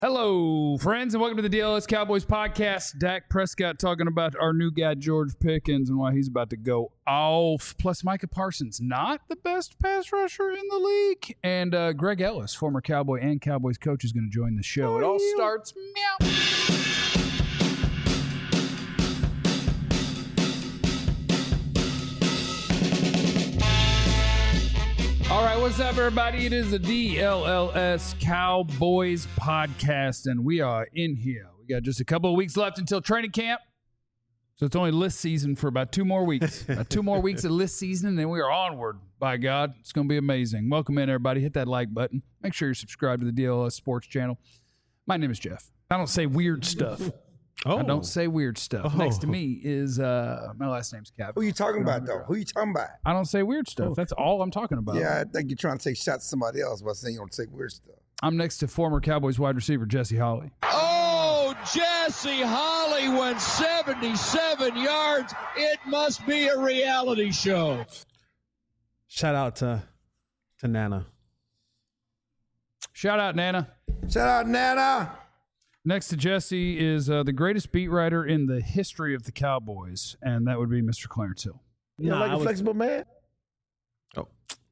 Hello, friends, and welcome to the DLS Cowboys podcast. Dak Prescott talking about our new guy, George Pickens, and why he's about to go off. Plus, Micah Parsons, not the best pass rusher in the league. And Greg Ellis, former Cowboy and Cowboys coach, is going to join the show. It all starts meow. All right, what's up, everybody? It is the DLLS Cowboys podcast, and we are in here. We got just a couple of weeks left until training camp, so it's only list season for about 2 more weeks. About 2 more weeks of list season, and then we are onward. By God, it's going to be amazing. Welcome in, everybody. Hit that like button. Make sure you're subscribed to the DLS Sports channel. My name is Jeff. I don't say weird stuff. I don't say weird stuff. Next to me is my last name's Cap. Who you talking about, though? Who you talking about? I don't say weird stuff. That's all I'm talking about. Yeah, I think you're trying to take shots at somebody else by saying you don't say weird stuff. I'm next to former Cowboys wide receiver Jesse Holley. Oh, Jesse Holley went 77 yards. It must be a reality show. Shout out to Nana. Shout out, Nana. Shout out, Nana. Next to Jesse is the greatest beat writer in the history of the Cowboys, and that would be Mr. Clarence Hill. You like a flexible man? Oh,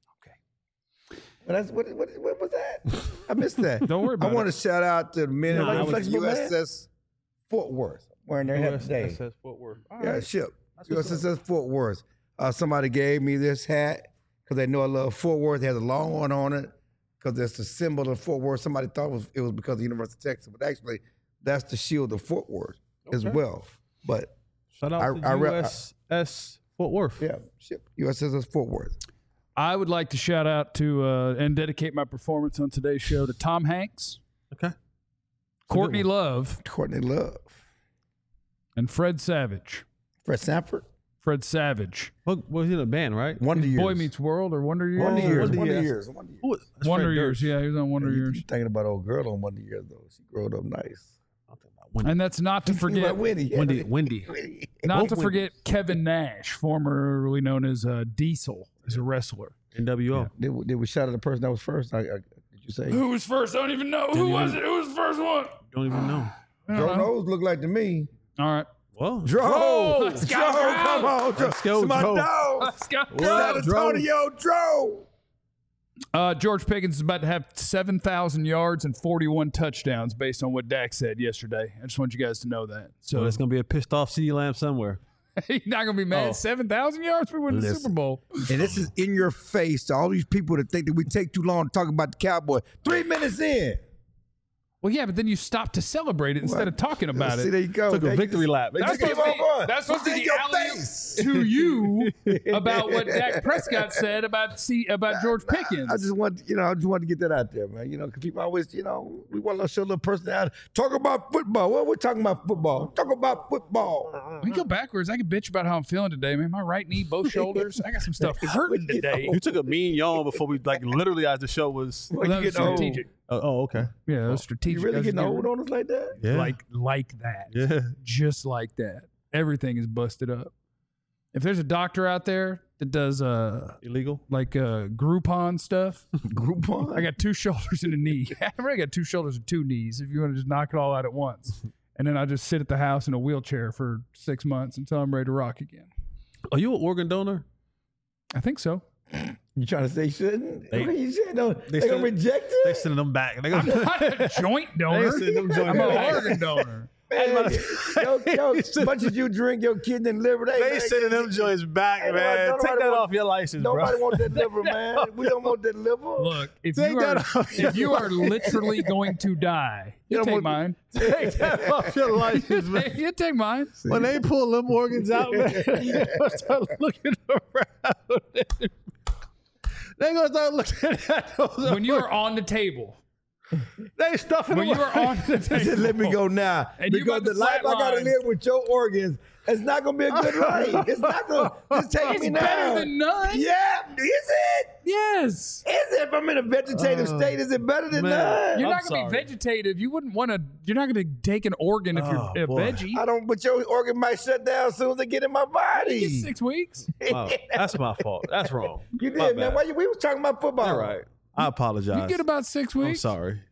okay. Well, what was that? I missed that. Don't worry about I want to shout out to the men of the flexible USS Fort Worth wearing their hat today. USS Fort Worth. All Yeah, right. ship. USS Fort Worth. Somebody gave me this hat because they know I love Fort Worth. It has a long one on it because it's the symbol of Fort Worth. Somebody thought it was because of the University of Texas, but actually that's the shield of Fort Worth as well. but Shout out to USS Fort Worth. Yeah, ship USS Fort Worth. I would like to shout out to and dedicate my performance on today's show to Tom Hanks, Okay. Courtney Love, Courtney Love. and Fred Savage. Fred Sanford. Fred Savage. What was he in a band, right? Wonder Years. Boy Meets World or Wonder Years? Wonder Years. Wonder Wonder Years. Years. Wonder Years. Who was- that's Wonder Fred Years. Durst. Yeah, he was on Wonder Years. You're thinking about old girl on Wonder Years, though. She growed up nice. I'm thinking about Wendy. And that's not to forget Wendy. Wendy. not to Wendy. forget Kevin Nash, formerly known as Diesel, as a wrestler. NWO. Did we shout at the person that was first? Did you say? Who was first? I don't even know. Who was it? Who was the first one? Don't even know. Joe Nose looked like to me. All right. Well, Joe! Let's go, Joe, Joe! come on. Joe. Let's go, It's my Joe. dog. Let's go. San Antonio, Joe. George Pickens is about to have 7,000 yards and 41 touchdowns based on what Dak said yesterday. I just want you guys to know that. so So it's going to be a pissed off CeeDee Lamb somewhere. he's not going to be mad. Oh. 7,000 yards? We win the Listen. Super Bowl. And this is in your face to all these people that think that we take too long to talk about the Cowboys. 3 minutes in. Well, yeah, but then you stop to celebrate it instead of talking about See, it. there you go. Took a victory lap. That's Keep supposed to be, on going. that's supposed to What's be in your the alley-oop face? to you about what Dak Prescott said about George Pickens. I just want to get that out there, man. Because people always, we want to show a little personality. Talk about football. Well, we're talking about football. Talk about football. We go backwards. I can bitch about how I'm feeling today, man. My right knee, both shoulders. I got some stuff hurting today. You took a mean yawn before we, literally as the show was. Well, That you was get old. strategic. Oh, okay. Yeah, that was strategic. You really I was getting getting old on us like that? Yeah. like that. Yeah. Just like that. Everything is busted up. If there's a doctor out there that does Illegal? Groupon stuff, Groupon. I got 2 shoulders and a knee. I already got 2 shoulders and 2 knees. If you want to just knock it all out at once, and then I just sit at the house in a wheelchair for 6 months until I'm ready to rock again. Are you an organ donor? I think so. You trying to say you shouldn't? They- You shouldn't. They going to send- reject They it? sending them back. They I'm gonna, not a joint donor. sending them joint I'm an back. organ donor. Man, much as you drink your kidney and liver, They sending them joints back, Hey, man. nobody Take that want- off your license, bro. Nobody want that liver, man. We don't want that liver. Look, if Take you that are off if you are literally going to die, you You don't take want- mine. Take that off your license, man. You take mine. When they pull them organs out, man, they're gonna start looking around. They're gonna start looking at those. When you are on the table. they stuffing When them you are on the Just table. let me go now. And you because about to the life I got to flatline. live with your organs, it's not going to be a good life. It's not going to just take It's me now. better than none. Yeah, is it? Yes. Is it? If I'm in a vegetative state, is it better than man. none? You're I'm not going to be sorry. vegetative. You wouldn't want to. You're not going to take an organ if Oh, you're a boy. veggie. I don't, but your organ might shut down as soon as they get in my body. It's 6 weeks. Wow, that's my fault. That's wrong. You My did, man. bad. Why we was talking about football. All right. I apologize. You get about 6 I'm weeks. sorry.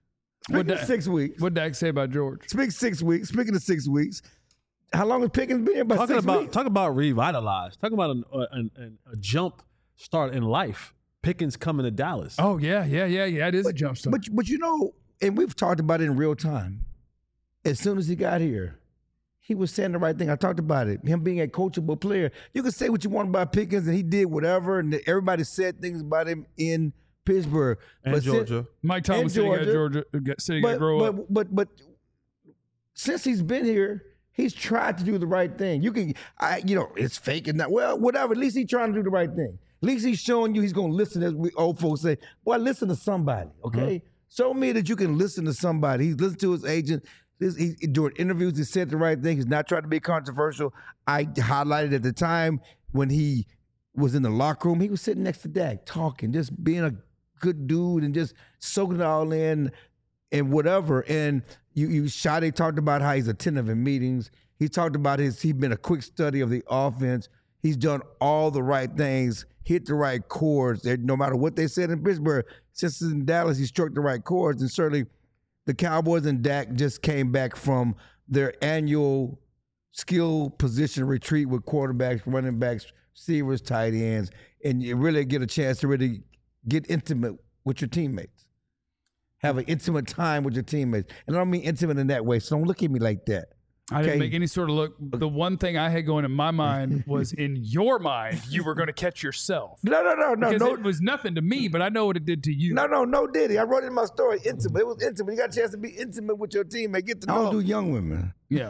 Speaking of 6 weeks. What'd Dak say about George? Speaking of 6 weeks, how long has Pickens been here? About 6 weeks? Talk about revitalized. Talk about a jump start in life. Pickens coming to Dallas. Oh, yeah. It is a jump start. But you know, and we've talked about it in real time. As soon as he got here, he was saying the right thing. I talked about it. Him being a coachable player. You can say what you want about Pickens, and he did whatever, and everybody said things about him in Pittsburgh. And Georgia. Mike Thomas said he got Georgia. Said he got to grow up. But since he's been here, he's tried to do the right thing. It's fake and that. Well, whatever. At least he's trying to do the right thing. At least he's showing you he's going to listen, as we old folks say. Boy, listen to somebody, okay? Show me that you can listen to somebody. He's listened to his agent. During interviews, he said the right thing. He's not trying to be controversial. I highlighted at the time when he was in the locker room, he was sitting next to Dak, talking, just being a good dude and just soaking it all in and whatever. And Shadi talked about how he's attentive in meetings. He talked about he's been a quick study of the offense. He's done all the right things, hit the right chords. No matter what they said in Pittsburgh, since in Dallas, he struck the right chords. And certainly the Cowboys and Dak just came back from their annual skill position retreat with quarterbacks, running backs, receivers, tight ends, and you really get a chance to really get intimate with your teammates. Have an intimate time with your teammates. And I don't mean intimate in that way, so don't look at me like that. I didn't make any sort of look. The one thing I had going in my mind was in your mind, you were going to catch yourself. No. Because it was nothing to me, but I know what it did to you. No, Diddy. I wrote it in my story, intimate. It was intimate. You got a chance to be intimate with your teammate. Get to know. I don't do young women. Yeah.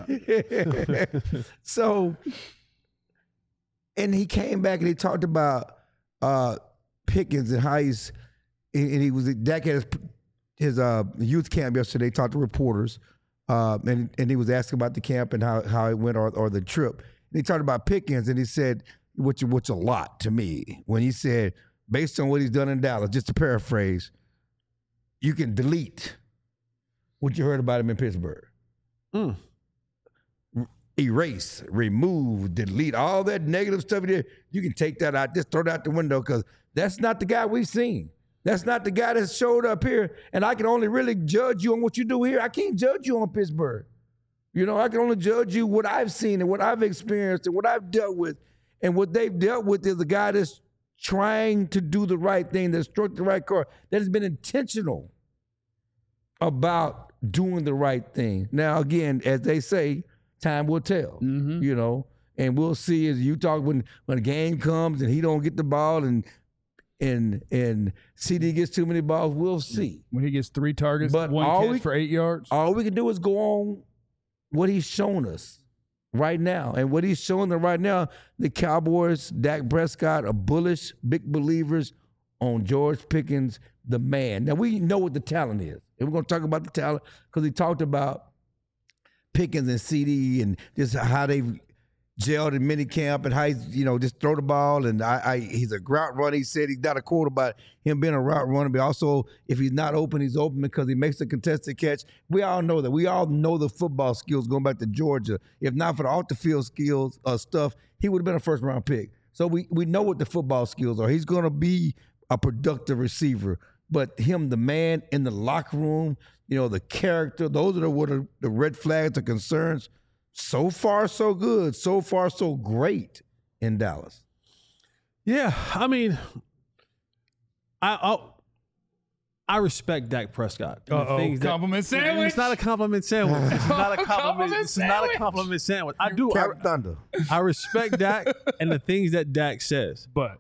So, and he came back and he talked about Pickens and how Dak had his youth camp yesterday, talked to reporters. And he was asking about the camp and how it went or the trip. And he talked about Pickens and he said, which a lot to me, when he said, based on what he's done in Dallas, just to paraphrase, you can delete what you heard about him in Pittsburgh. Erase, remove, delete, all that negative stuff there. You can take that out, just throw it out the window because that's not the guy we've seen. That's not the guy that showed up here, and I can only really judge you on what you do here. I can't judge you on Pittsburgh. I can only judge you what I've seen and what I've experienced and what I've dealt with. And what they've dealt with is a guy that's trying to do the right thing, that struck the right chord, that has been intentional about doing the right thing. Now, again, as they say, time will tell, and we'll see as you talk when a game comes and he don't get the ball and CD gets too many balls, we'll see. When he gets 3 targets, but 1 catch for 8 yards. All we can do is go on what he's shown us right now. And what he's showing them right now, the Cowboys, Dak Prescott are bullish, big believers on George Pickens, the man. Now, we know what the talent is. And we're going to talk about the talent because he talked about Pickens and CD and just how they've gelled in minicamp and how he's, just throw the ball. And he's a route runner. He said he's got a quote about him being a route runner, but also if he's not open, he's open because he makes a contested catch. We all know that. We all know the football skills going back to Georgia. If not for the off-the-field skills stuff, he would have been a first-round pick. So we know what the football skills are. He's going to be a productive receiver. But him, the man in the locker room, the character, those are what are the red flags, the concerns. So far, so good. So far, so great in Dallas. Yeah, I mean, I respect Dak Prescott. Compliment sandwich. It's not a compliment sandwich. It's not a compliment. It's not a compliment sandwich. I do. Thunder. I respect Dak and the things that Dak says. But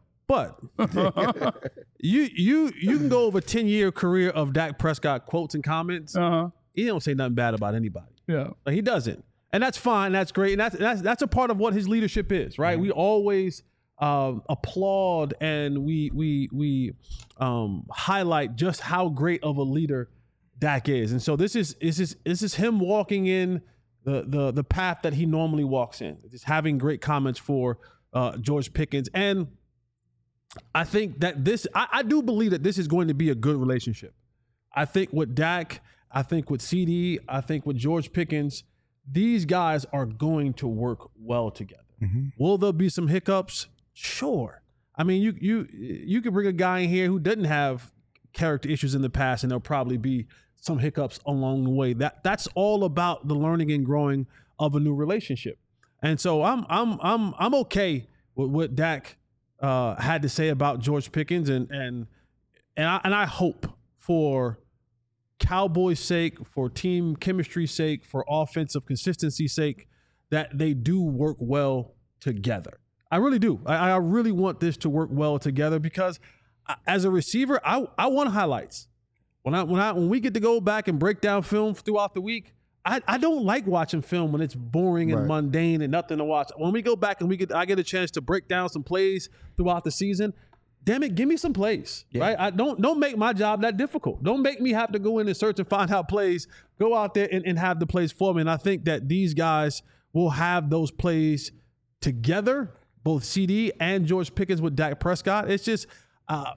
you can go over a 10-year career of Dak Prescott quotes and comments. He don't say nothing bad about anybody. Yeah, like, he doesn't. And that's fine. That's great. And that's a part of what his leadership is, right? We always applaud and we highlight just how great of a leader Dak is. And so this is him walking in the path that he normally walks in, just having great comments for George Pickens. And I think that I do believe that this is going to be a good relationship. I think with Dak, I think with CD, I think with George Pickens, these guys are going to work well together. Will there be some hiccups? Sure. I mean, you could bring a guy in here who doesn't have character issues in the past, and there'll probably be some hiccups along the way. That's all about the learning and growing of a new relationship. And so I'm okay with what Dak had to say about George Pickens, and I hope for Cowboys' sake, for team chemistry's sake, for offensive consistency's sake, that they do work well together. I really do. I really want this to work well together, because as a receiver, I want highlights. When we get to go back and break down film throughout the week, I don't like watching film when it's boring and mundane and nothing to watch. When we go back and I get a chance to break down some plays throughout the season, damn it, give me some plays, right? Don't make my job that difficult. Don't make me have to go in and search and find out plays. Go out there and have the plays for me. And I think that these guys will have those plays together, both CD and George Pickens with Dak Prescott. It's just, I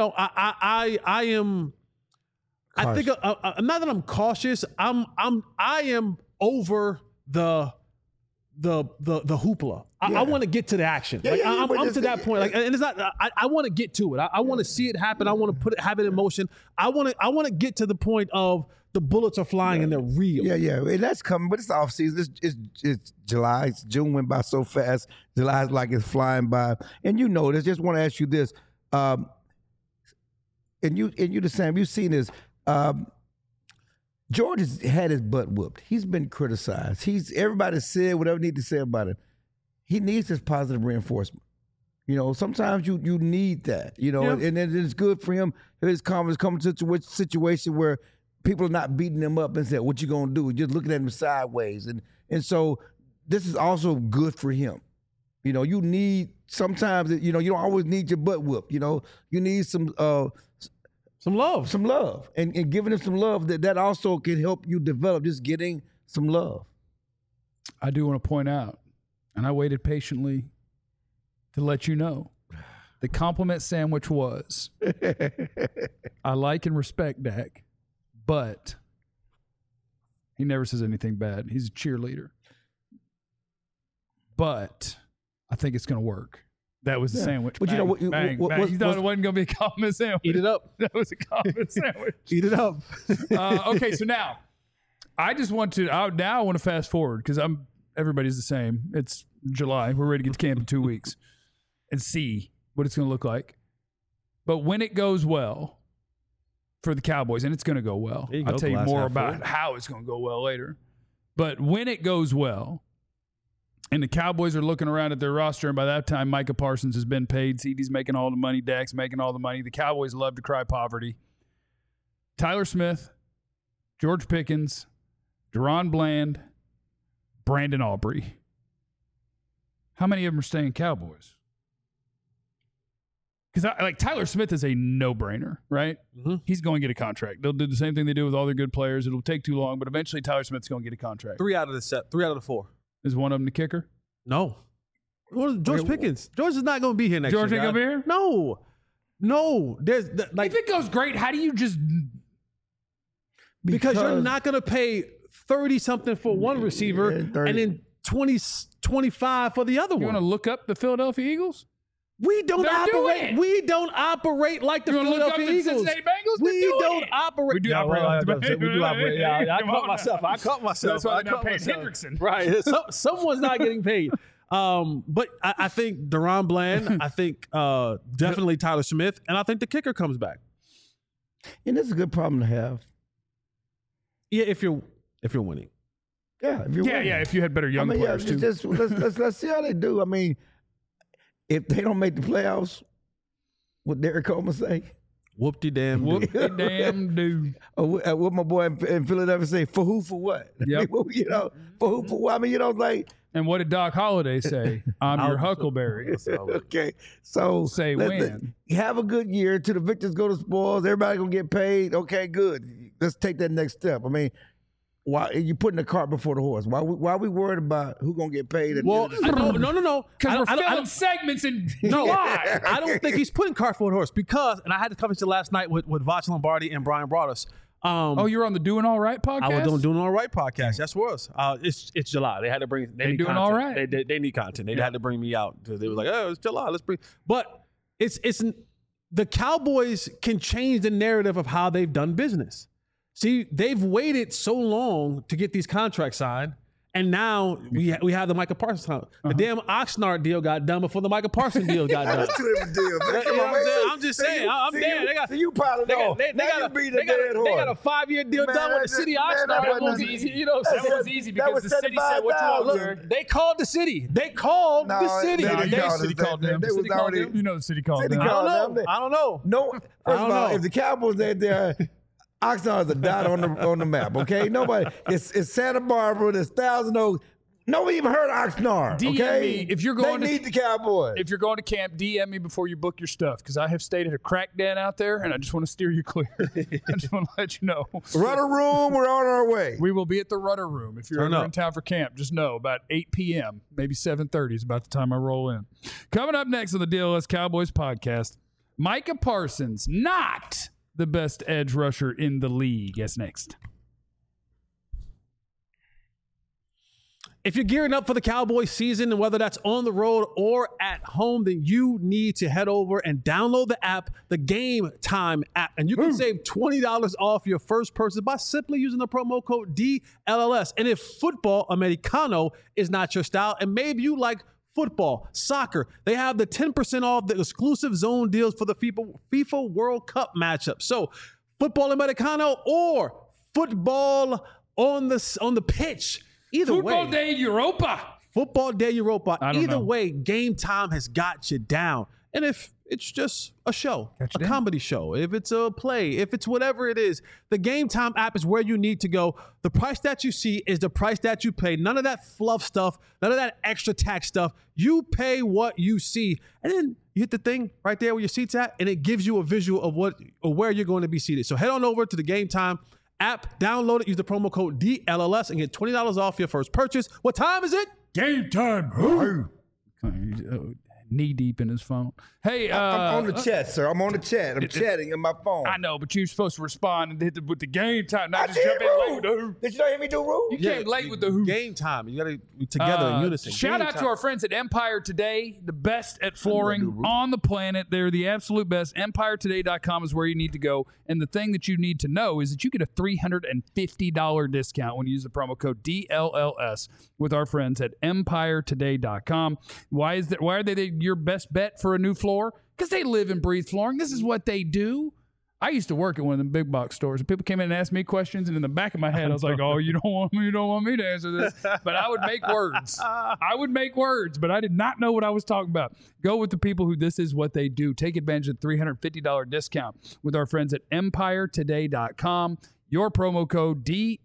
am. I think not that I'm cautious. I am over the hoopla. I want to get to the action. I'm to that point. And it's not. I want to get to it. I want to see it happen. I want to have it in motion. I want to get to the point of the bullets are flying and they're real. Yeah, and that's coming. But it's off season. It's July. June went by so fast. July's like it's flying by. And you know this. Just want to ask you this. And you the same. You've seen this. George has had his butt whooped. He's been criticized. Everybody said whatever they need to say about him. He needs this positive reinforcement. You know, sometimes you need that. You know, and it's good for him. His confidence comes to a situation where people are not beating him up and saying, "What you gonna do?" Just looking at him sideways, and so this is also good for him. You know, you need sometimes. You know, you don't always need your butt whooped. You know, you need some love, and giving him some love that also can help you develop. Just getting some love. I do want to point out, and I waited patiently to let you know, the compliment sandwich was, I like and respect Dak, but he never says anything bad. He's a cheerleader. But I think it's going to work. That was the sandwich. But bang, you know what? You thought it wasn't going to be a compliment sandwich. Eat it up. That was a compliment sandwich. Eat it up. Okay, so now I just want to. Now I want to fast forward because everybody's the same. It's July. We're ready to get to camp in 2 weeks and see what it's going to look like. But when it goes well for the Cowboys, and it's going to go well, I'll tell you more about how it's going to go well later. But when it goes well, and the Cowboys are looking around at their roster, and by that time, Micah Parsons has been paid. CD's making all the money. Dak's making all the money. The Cowboys love to cry poverty. Tyler Smith, George Pickens, Deron Bland, Brandon Aubrey. How many of them are staying Cowboys? Because Tyler Smith is a no-brainer, right? Mm-hmm. He's going to get a contract. They'll do the same thing they do with all their good players. It'll take too long, but eventually Tyler Smith's going to get a contract. 3 out of the 4. Is one of them the kicker? No. George Pickens. George is not going to be here next year. George ain't going to be here? No. There's if it goes great, how do you just... Because you're not going to pay 30-something for one receiver and then 25 for the other one. You want to look up the Philadelphia Eagles? We don't operate like the Philadelphia Eagles. The Cincinnati Bengals? We don't operate. We do operate. We do operate. Yeah, I caught myself. That's why they're not paying Hendrickson. Right. Someone's not getting paid. But I think Deron Bland. I think definitely Tyler Smith, and I think the kicker comes back. And that's a good problem to have. Yeah, if you're winning. Yeah, if you're winning. Yeah. If you had better young players too. Let's see how they do. I mean, if they don't make the playoffs, what Derek Coleman say? Whoop-de-damn do. What my boy in Philadelphia say? For who, for what? Yep. You know, for who, for what? I mean, you know, like. And what did Doc Holliday say? I'm your Huckleberry. Okay, so say when. Have a good year. Till the victors go to spoils. Everybody gonna get paid. Okay, good. Let's take that next step. I mean, why you putting the cart before the horse? Why we worried about who gonna get paid? No. Because we're filling segments in July. I don't think he's putting cart before the horse because, and I had this conversation last night with Voch Lombardi and Brian Broaddus. You're on the Doing All Right podcast? I was on the Doing All Right podcast. That's for us. It's July. They had to bring. They need doing content. All right. They need content. They had to bring me out. They was like, oh, it's July. Let's bring. But it's the Cowboys can change the narrative of how they've done business. See, they've waited so long to get these contracts signed, and now we have the Micah Parsons contract. The damn Oxnard deal got done before the Micah Parsons deal got done. That's two different deals. Man. You know what I'm saying? I'm just saying. I'm dead. You piled it off. They got a 5-year deal done with the city of Oxnard. That was easy. You know, that was easy because the city said what you want, sir. They called the city. They called the city. The city called them. They was already. You know the city called them. I don't know. No, first of all, if the Cowboys ain't there, Oxnard is a dot on the map. Okay, nobody. It's Santa Barbara. There's Thousand Oaks. Nobody even heard of Oxnard. DM okay, me if you're going. They need the Cowboys. If you're going to camp, DM me before you book your stuff because I have stayed at a crack den out there, and I just want to steer you clear. I just want to let you know. Rudder Room, we're on our way. We will be at the Rudder Room if you're ever in town for camp. Just know about 8 p.m., maybe 7:30 is about the time I roll in. Coming up next on the DLS Cowboys podcast, Micah Parsons, not the best edge rusher in the league. Guess next. If you're gearing up for the Cowboys season, and whether that's on the road or at home, then you need to head over and download the app, the Game Time app. And you can save $20 off your first purchase by simply using the promo code DLLS. And if football Americano is not your style, and maybe you like football, soccer, they have the 10% off the exclusive zone deals for the FIFA World Cup matchup. So football Americano or football on the pitch. Either Football way, Day Europa. Football Day Europa. Either know. way, Game Time has got you down. And if it's just a show, a comedy show, if it's a play, if it's whatever it is, the Game Time app is where you need to go. The price that you see is the price that you pay. None of that fluff stuff, none of that extra tax stuff. You pay what you see. And then you hit the thing right there where your seat's at, and it gives you a visual of where you're going to be seated. So head on over to the Game Time app, download it, use the promo code DLLS, and get $20 off your first purchase. What time is it? Game time. Knee deep in his phone. Hey, I'm on the chat, sir. I'm on the chat. I'm chatting on my phone. I know, but you're supposed to respond and hit with the game time, not I just did, jump in late with the who. Did you not hear me do Roo? You came late with the who. Game Time. You got to be together in unison. Shout Game out time. to our friends at Empire Today, the best at flooring on the planet. They're the absolute best. EmpireToday.com is where you need to go. And the thing that you need to know is that you get a $350 discount when you use the promo code DLLS with our friends at EmpireToday.com. Why are they your best bet for a new floor? Because they live and breathe flooring. This is what they do. I used to work at one of them big box stores, and people came in and asked me questions, and in the back of my head, I was like, "Oh, you don't want me to answer this." But I would make words. But I did not know what I was talking about. Go with the people who this is what they do. Take advantage of the $350 discount with our friends at EmpireToday.com. Your promo code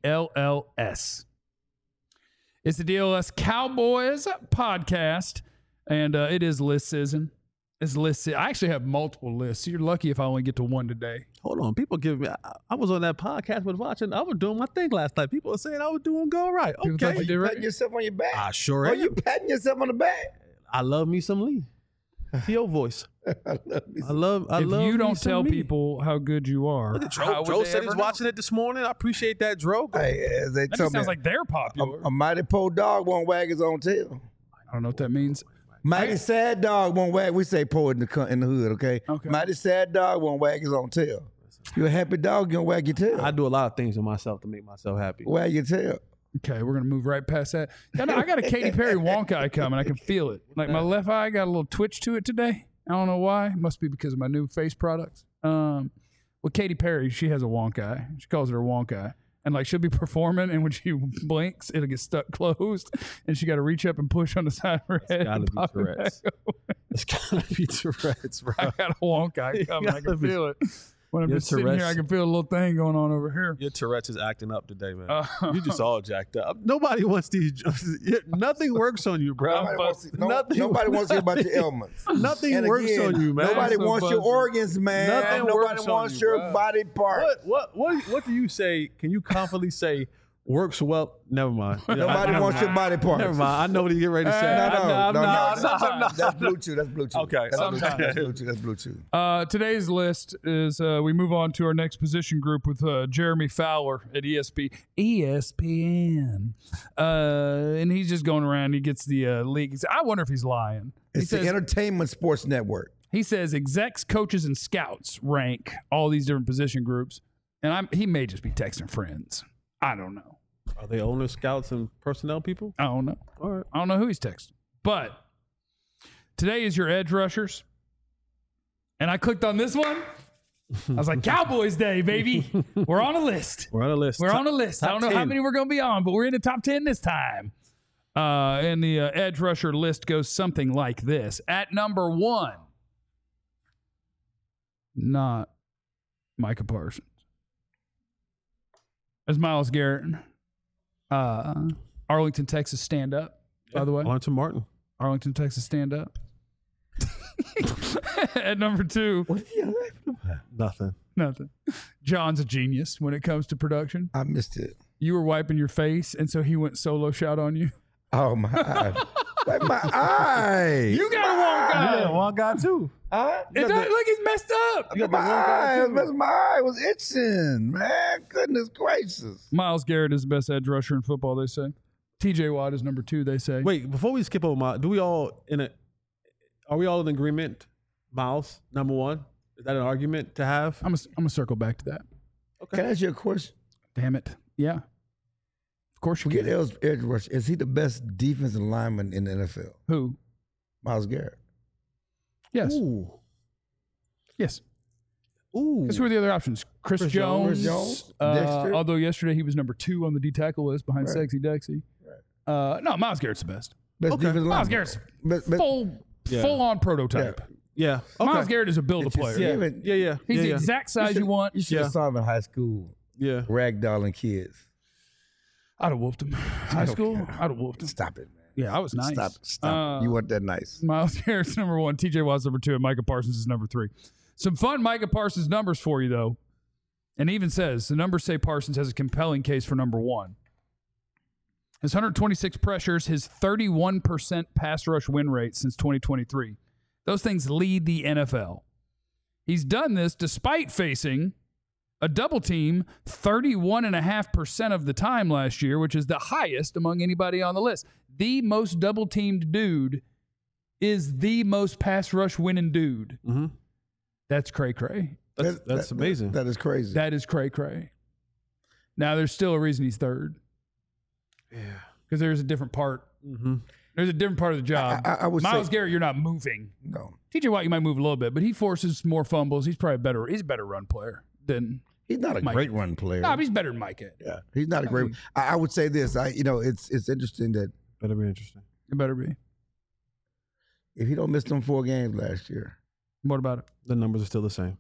DLLS. It's the DLS Cowboys podcast, and it is list season. It's list. I actually have multiple lists. You're lucky if I only get to one today. Hold on. People give me, I was on that podcast with watching. I was doing my thing last night. People were saying I was doing go right. People thought Okay. you did right. Patting yourself on your back. I sure Are am. you patting yourself on the back? I love me some Lee. T.O. voice. I love If you me don't some tell Lee. people how good you are, how would Dro they said ever he's know? watching it this morning. I appreciate that, Dro. Hey, as they That told just me, sounds like they're popular. a mighty poor dog won't wag his own tail. I don't know what that means. Mighty sad dog won't wag. We say poor in the hood, okay? Okay. Mighty sad dog won't wag his own tail. You're a happy dog, you don't wag your tail. I do a lot of things with myself to make myself happy. Wag your tail. Okay, we're gonna move right past that. I got a Katy Perry wonk eye coming. I can feel it. Like my left eye got a little twitch to it today. I don't know why. It must be because of my new face products. Well, Katy Perry, she has a wonk eye. She calls it her wonk eye. And like she'll be performing, and when she blinks, it'll get stuck closed, and she got to reach up and push on the side of her head. Gotta and be pop it Tourette's. back open. It's gotta be Tourette's, bro. I got a wonk eye coming. I can gotta be- feel it. When I'm Your just sitting here, Tourette's. I can feel a little thing going on over here. Your Tourette's is acting up today, man. Uh, You just all jacked up. Nobody wants these. Nothing works on you, bro. Nobody wants to hear about your ailments. Nothing And works again, on you, man. Nobody So wants your buzzing. organs, man. Nothing Nobody works on wants you, your bro. body part. What do you say? Can you confidently say works well? Never mind. Nobody wants your body parts. Never mind. I know what you get ready to say. No. That's Sometimes. Bluetooth. That's Bluetooth. Okay, That's sometimes. Bluetooth. That's Bluetooth. Today's list is we move on to our next position group with Jeremy Fowler at ESPN. And he's just going around. He gets the league. He says, I wonder if he's lying. It's the Entertainment Sports Network. He says execs, coaches, and scouts rank all these different position groups. And he may just be texting friends. I don't know. Are they owners, scouts, and personnel people? I don't know. All right. I don't know who he's texting. But today is your edge rushers. And I clicked on this one. I was like, Cowboys Day, baby. We're on a list. We're on a list. We're on a list. I don't know how 10. many we're going to be on, but we're in the top 10 this time. And the edge rusher list goes something like this. At number 1, not Micah Parsons. As Myles Garrett. Arlington, Texas, stand up, by the way. Arlington Martin. Arlington, Texas, stand up. At number 2. What are you laughing about? Nothing. John's a genius when it comes to production. I missed it. You were wiping your face, and so he went solo shot on you. Oh, my eye. Like my eye. You got a one guy. Yeah, one guy too. It does look like he's messed up. My eye was itching, man. Goodness gracious. Myles Garrett is the best edge rusher in football, they say. TJ Watt is number 2, they say. Wait, before we skip over are we all in agreement? Miles, number 1. Is that an argument to have? I'm gonna circle back to that. Okay. Can I ask you a question? Damn it. Yeah. Of course you Forget can. edge rush. Is he the best defensive lineman in the NFL? Who? Myles Garrett. Yes. Ooh. Yes. Ooh. Because who are the other options? Chris Jones. Dexter. Although yesterday he was number 2 on the D tackle list behind Right. Sexy Dexy. Right. No, Myles Garrett's the best. Best defensive lineman. Myles Garrett's But- full on prototype. Yeah. Okay. Myles Garrett is a build a player. Yeah. Yeah. He's the yeah. exact size you want. You should have saw him in high school, Yeah. ragdolling kids. I'd have whooped him. High school, I'd have whooped him. Stop it, man. Yeah, I was nice. Stop. You weren't that nice. Myles Garrett's number 1, TJ Watt's number 2, and Micah Parsons is number 3. Some fun Micah Parsons numbers for you, though. And even says the numbers say Parsons has a compelling case for number 1. His 126 pressures, his 31% pass rush win rate since 2023. Those things lead the NFL. He's done this despite facing a double team 31.5% of the time last year, which is the highest among anybody on the list. The most double teamed dude is the most pass rush winning dude. Mm-hmm. That's cray-cray. That's amazing. That is crazy. That is cray-cray. Now, there's still a reason he's 3rd. Yeah. Because there's a different part. Mm-hmm. There's a different part of the job. I would Myles say, Garrett, you're not moving. No. TJ Watt, you might move a little bit, but he forces more fumbles. He's probably better. He's a better run player than He's not a Mike. great run player. No, but he's better than Micah. Yeah, he's not a great. I would say this. It's interesting that Better be interesting. It better be. if he don't miss them 4 games last year, What about it? The numbers are still the same.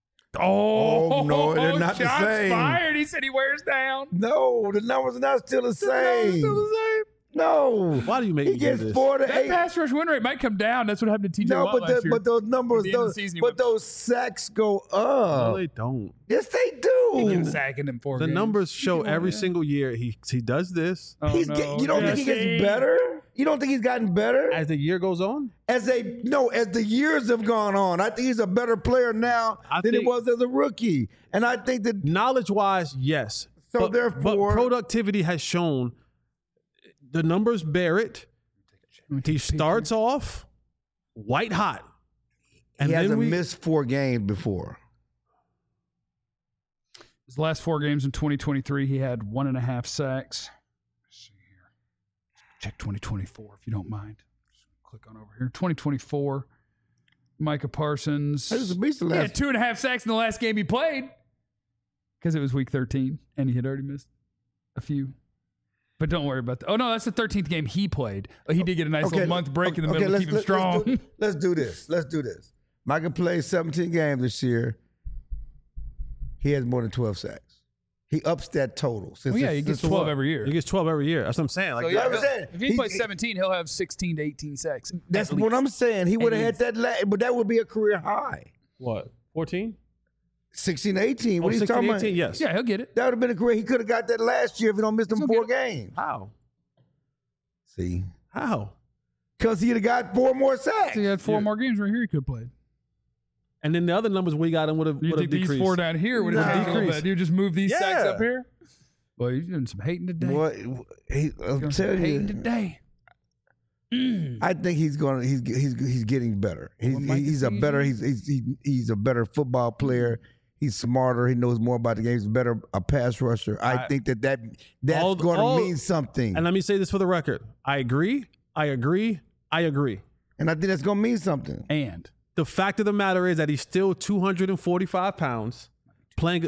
Oh, no, they're not the shots same. fired. He said he wears down. no, the numbers are not still the same. Still the same. No. Why do you make He me do gets this? 4 to That 8. pass rush win rate might come down. That's what happened to TJ No, Watt last year. but those numbers, At the end of the season, he went- those sacks go No, up. they don't. Yes, they He do. gets sacked in 4 The games. numbers show every single year he does this. Oh, You don't think he gets better? You don't think he's gotten better? As the year goes on, As the years have gone on, I think he's a better player now than he think- was as a rookie. And I think that knowledge-wise, yes. So but therefore- productivity has shown the numbers bear it. He starts off white hot. And he then hasn't we missed 4 games before. His last 4 games in 2023, he had 1.5 sacks. Let's see here. Check 2024, if you don't mind. Just click on over here. 2024, Micah Parsons. That was a beast the He had last. 2.5 sacks in the last game he played because it was week 13, and he had already missed a few. But don't worry about that. Oh, no, that's the 13th game he played. He did get a nice little month break in the middle to keep him strong. Let's do this. Micah played 17 games this year. He has more than 12 sacks. He ups that total. Well, yeah, he gets 12 every year. he gets 12 every year. That's what I'm saying. Like So, yeah, I'm saying. if he plays 17, he'll have 16 to 18 sacks. That's at what least. I'm saying. He would have had that, but that would be a career high. what? 14? 16, 18. What are you 16, talking about? 18, yes. Yeah, he'll get it. That would have been a career. He could have got that last year if he don't miss them He'll 4 get games. How? See? How? Because he'd have got 4 more sacks. So he had 4 more games right here he could have played. And then the other numbers we got him would have You think decreased. these 4 down here would have No. decreased? You just move these sacks Yeah. up here? Well, you're doing some hating today. Boy, Doing I'm some telling hating you, today. I think he's getting better. Well, Micah He's a sees better you. he's a better football player. He's smarter. He knows more about the game. He's better a pass rusher. I think that's going to mean something. And let me say this for the record. I agree. And I think that's going to mean something. And the fact of the matter is that he's still 245 pounds, playing a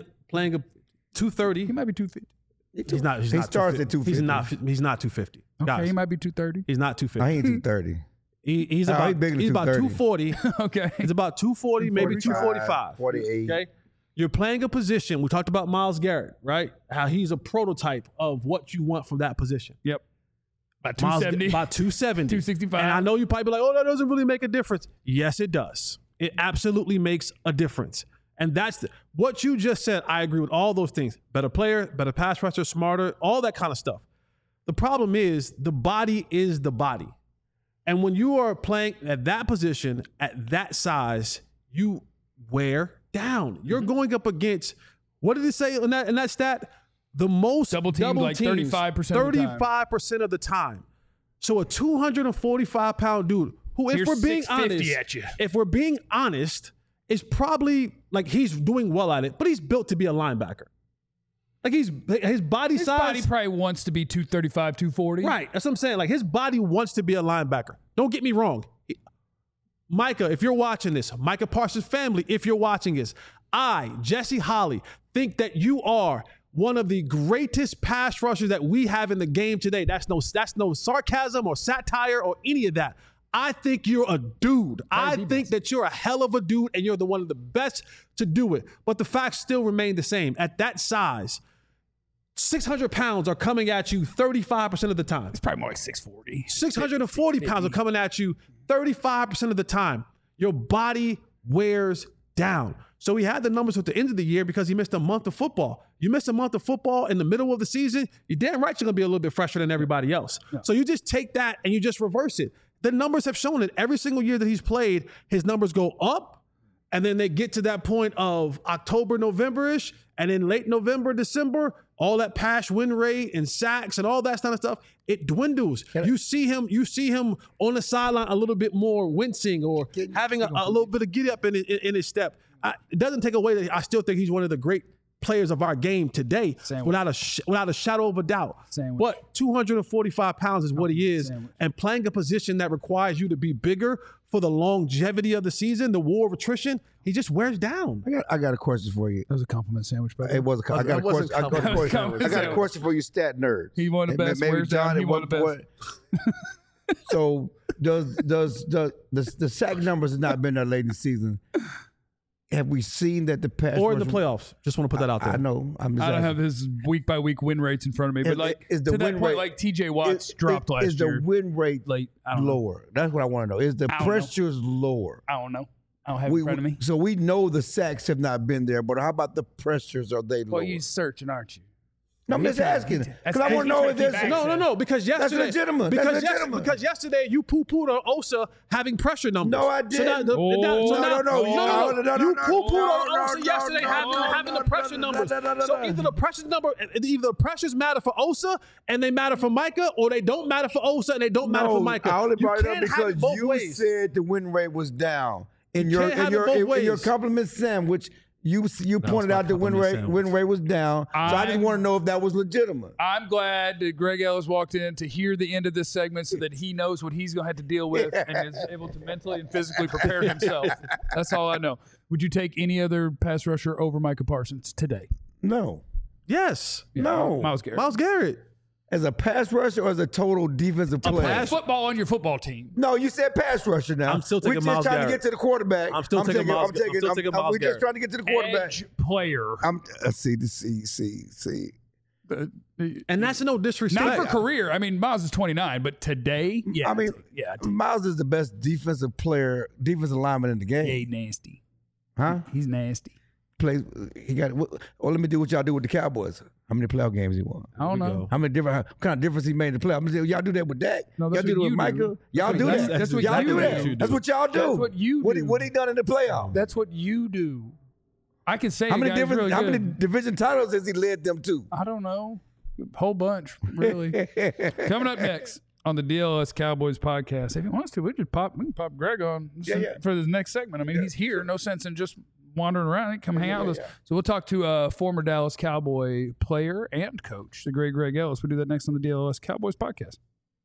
230. he might be 250. He's not. He starts at 250. He's not 250. Okay, Guys, he might be 230. he's not 250. I ain't 230. He's about bigger than he's about 240. Okay. He's about 240, maybe 245. 48. Okay. You're playing a position. We talked about Myles Garrett, right? How he's a prototype of what you want from that position. Yep. About Myles, 270. about 270. 265. And I know you probably be like, oh, that doesn't really make a difference. Yes, it does. It absolutely makes a difference. And that's what you just said. I agree with all those things. Better player, better pass rusher, smarter, all that kind of stuff. The problem is the body is the body. And when you are playing at that position, at that size, you wear down. You're going up against, what did it say in that stat? The most Double teams like 35% of the time. 35% of the time. So a 245-pound dude who, if Here's we're being 650 honest, at you. if we're being honest, is probably like he's doing well at it, but he's built to be a linebacker. Like his body His size. body probably wants to be 235, 240. Right. That's what I'm saying. Like his body wants to be a linebacker. Don't get me wrong. Micah, if you're watching this, Micah Parsons' family, if you're watching this, I, Jesse Holley, think that you are one of the greatest pass rushers that we have in the game today. That's no sarcasm or satire or any of that. I think you're a dude. I think that you're a hell of a dude and you're one of the best to do it. But the facts still remain the same. At that size, 600 pounds are coming at you 35% of the time. It's probably more like 640. 640 pounds are coming at you 35% of the time. Your body wears down. So he had the numbers at the end of the year because he missed a month of football. You miss a month of football in the middle of the season, you're damn right you're going to be a little bit fresher than everybody else. Yeah. So you just take that and you just reverse it. The numbers have shown it. Every single year that he's played, his numbers go up, and then they get to that point of October, November-ish, and then late November, December, all that pass win rate and sacks and all that kind of stuff, it dwindles. You see him on the sideline a little bit more wincing or having a little bit of get up in his step. It doesn't take away that I still think he's one of the great players of our game today, without a shadow of a doubt. But 245 pounds is what he is, and playing a position that requires you to be bigger for the longevity of the season, the war of attrition, he just wears down. I got a question for you. That was a compliment sandwich, brother. It was a I got a question for you, stat nerds. He won the best. Maybe John, he won the best. So does the sack numbers have not been there late in the season? Have we seen that the pass or in the playoffs? Just want to put that out there. I know. I don't have his week by week win rates in front of me, but like is the to win that point, rate, like TJ Watts dropped last year. Is the win rate like lower? That's what I want to know. Is the pressures lower? I don't know. I don't have it in front of me. So we know the sacks have not been there, but how about the pressures? Are they lower? Well, you're searching, aren't you? No, I'm just asking because I want to know if there's no. Because yesterday, that's legitimate. Because yesterday you poo-pooed on Osa having pressure numbers. No, I didn't. No. You poo-pooed on Osa no, yesterday having the pressure numbers. So either the pressures matter for Osa and they matter for Micah, or they don't matter for Osa and they don't matter for Micah. I only brought it up because you said the win rate was down in your compliment sandwich. You pointed out the win rate was down, so I just want to know if that was legitimate. I'm glad that Greg Ellis walked in to hear the end of this segment so that he knows what he's going to have to deal with and is able to mentally and physically prepare himself. That's all I know. Would you take any other pass rusher over Micah Parsons today? No. Yes. Yeah, no. Myles Garrett. Myles Garrett. As a pass rusher or as a total defensive player? Pass football on your football team. No, you said pass rusher now. I'm still taking Myles Garrett. We're just trying to get to the quarterback. I'm still taking Myles Garrett. We're just trying to get to the quarterback. Edge player. See. And that's no disrespect. Not for career. I mean, Myles is 29, but today, yeah. I mean, Myles is the best defensive lineman in the game. Yeah, he's nasty. Huh? He's nasty. He got. Well, let me do what y'all do with the Cowboys. How many playoff games he won? I don't know. What kind of difference he made in the playoffs? Y'all do that with Dak. No, y'all do that with Micah. Y'all do that. That's what y'all you do. do. That's what y'all do. That's what you do. What he done in the playoffs? That's what you do. I can say how many division titles has he led them to? I don't know. A whole bunch, really. Coming up next on the DLS Cowboys podcast. If he wants to, we can pop Greg on for the next segment. I mean, he's here. No sense in just wandering around. Come hang out with us. So we'll talk to former Dallas Cowboy player and coach, the great Greg Ellis. We'll do that next on the DLS Cowboys podcast.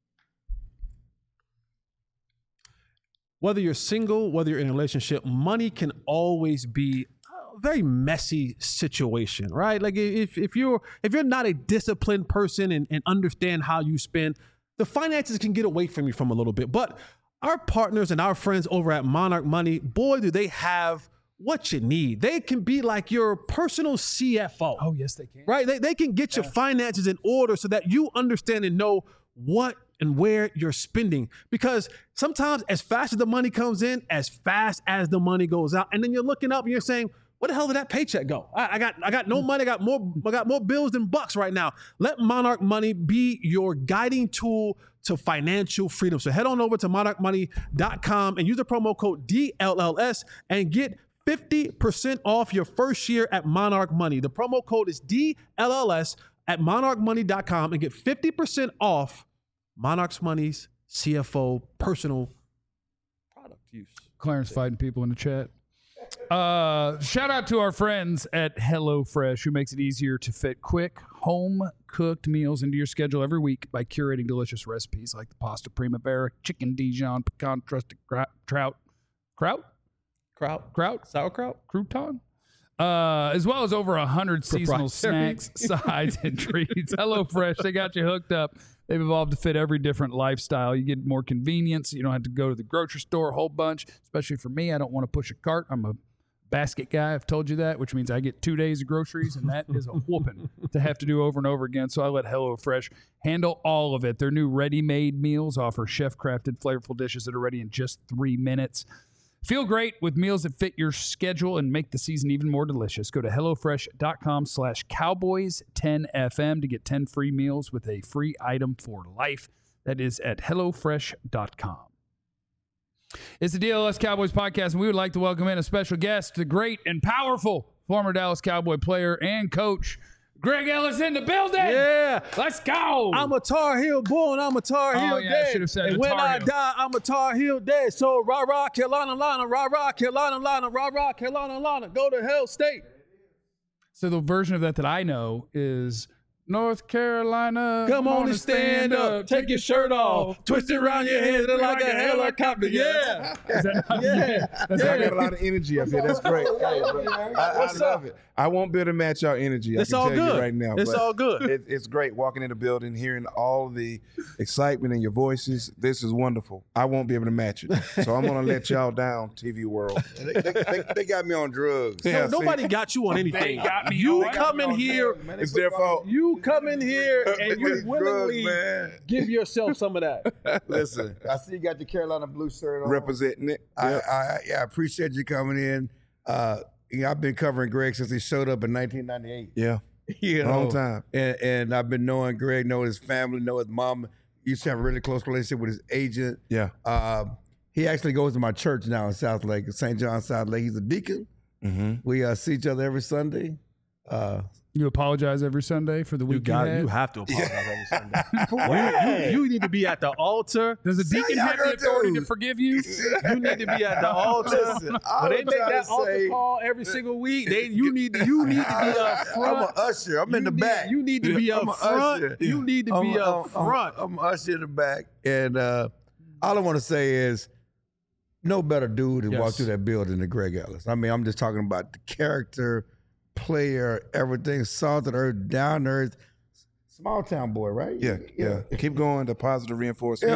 Whether you're single, whether you're in a relationship, money can always be a very messy situation, right? Like if you're not a disciplined person and understand how you spend, the finances can get away from you from a little bit. But our partners and our friends over at Monarch Money, boy, do they have what you need. They can be like your personal CFO. Oh, yes, they can. Right? They can get your finances in order so that you understand and know what and where you're spending. Because sometimes as fast as the money comes in, as fast as the money goes out, and then you're looking up and you're saying, where the hell did that paycheck go? I got no money. I got more bills than bucks right now. Let Monarch Money be your guiding tool to financial freedom. So head on over to monarchmoney.com and use the promo code DLLS and get 50% off your first year at Monarch Money. The promo code is DLLS at monarchmoney.com and get 50% off Monarch Money's CFO personal product use. Clarence fighting people in the chat. Shout out to our friends at HelloFresh, who makes it easier to fit quick, home-cooked meals into your schedule every week by curating delicious recipes like the pasta primavera, chicken Dijon, pecan crusted sauerkraut, crouton, as well as over 100 seasonal snacks, sides, and treats. HelloFresh, they got you hooked up. They've evolved to fit every different lifestyle. You get more convenience. You don't have to go to the grocery store a whole bunch, especially for me. I don't want to push a cart. I'm a basket guy. I've told you that, which means I get 2 days of groceries, and that is a whooping to have to do over and over again. So I let HelloFresh handle all of it. Their new ready-made meals offer chef-crafted, flavorful dishes that are ready in just 3 minutes. Feel great with meals that fit your schedule and make the season even more delicious. Go to HelloFresh.com/Cowboys10FM to get 10 free meals with a free item for life. That is at HelloFresh.com. It's the DLS Cowboys podcast, and we would like to welcome in a special guest, the great and powerful former Dallas Cowboy player and coach, Greg Ellis in the building. Yeah. Let's go. I'm a Tar Heel born, I'm a Tar Heel yeah, dead. I should have said and the when Tar I Heel. die, I'm a Tar Heel dead. So rah-rah, Carolina, Lana, rah-rah, Carolina, Lana, rah-rah, Carolina, Lana. Go to Hell State. So the version of that I know is North Carolina. Come on and stand up. Take your shirt off. Twist it around your head like a helicopter. Yeah. Is that not Yeah. I got a lot of energy up here. That's great. Hey, I love it. I won't be able to match our energy. It's I all can tell good you right now. It's but all good. It's great walking in the building, hearing all the excitement in your voices. This is wonderful. I won't be able to match it. So I'm going to let y'all down, TV world. They got me on drugs. Yeah, see? Nobody got you on anything. They got me You on- come in here. It's their fault. You come in here and you Drugs, willingly man. give yourself some of that. Listen, I see you got the Carolina blue shirt on. Representing it. I appreciate you coming in. I've been covering Greg since he showed up in 1998. Yeah. You know, Long time. And I've been knowing Greg, know his family, know his mom. He used to have a really close relationship with his agent. Yeah. He actually goes to my church now in South Lake, St. John, South Lake. He's a deacon. Mm-hmm. We see each other every Sunday. You apologize every Sunday for the week you had? You have to apologize every Sunday. You need to be at the altar. Does a deacon y'all have the gonna authority do? to forgive you? You need to be at the altar. Listen, When they I'm make trying that to altar say- call every single week, you need to be up I'm front. an usher. I'm in the back. You need to be I'm up a front. usher. You need to be up front. I'm an usher in the back. And all I want to say is no better dude to walk Yes. through that building than Greg Ellis. I mean, I'm just talking about the character, player, everything, salt of the earth, down to earth, small town boy, right? Yeah. Keep going. The positive reinforcement.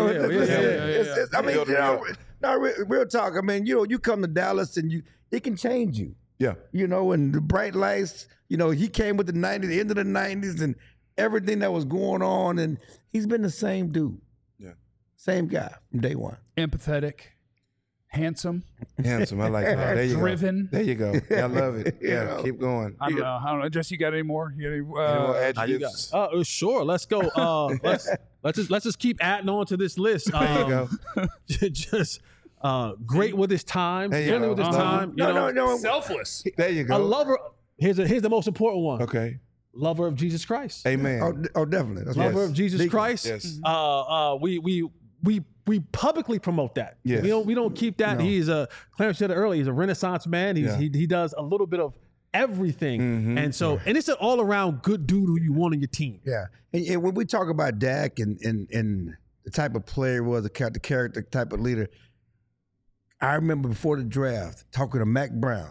I mean, Build it out. real talk. I mean, you come to Dallas and it can change you. Yeah. And the bright lights, he came with the 90s, the end of the 90s and everything that was going on. And he's been the same dude. Yeah. Same guy from day one. Empathetic, handsome. Handsome. I like that. There you Driven. go. There you go. I love it. Yeah. Keep going. I don't know. Jesse, you got any more? You got any, Any more adjectives? Sure. Let's go. Let's just keep adding on to this list. There you go. Just great with his time. There you Friendly go. with his time. No. selfless. There you A go. lover. Here's the most important one. Okay. Lover of Jesus Christ. Amen. Oh, definitely. That's Lover right. of Jesus Deacon. Christ. Yes. We we publicly promote that. Yes. We don't keep that. No. He's Clarence said it earlier. He's a Renaissance man. He does a little bit of everything, and so and it's an all around good dude who you want on your team. Yeah, and when we talk about Dak and the type of player he was, the character type of leader, I remember before the draft talking to Mac Brown.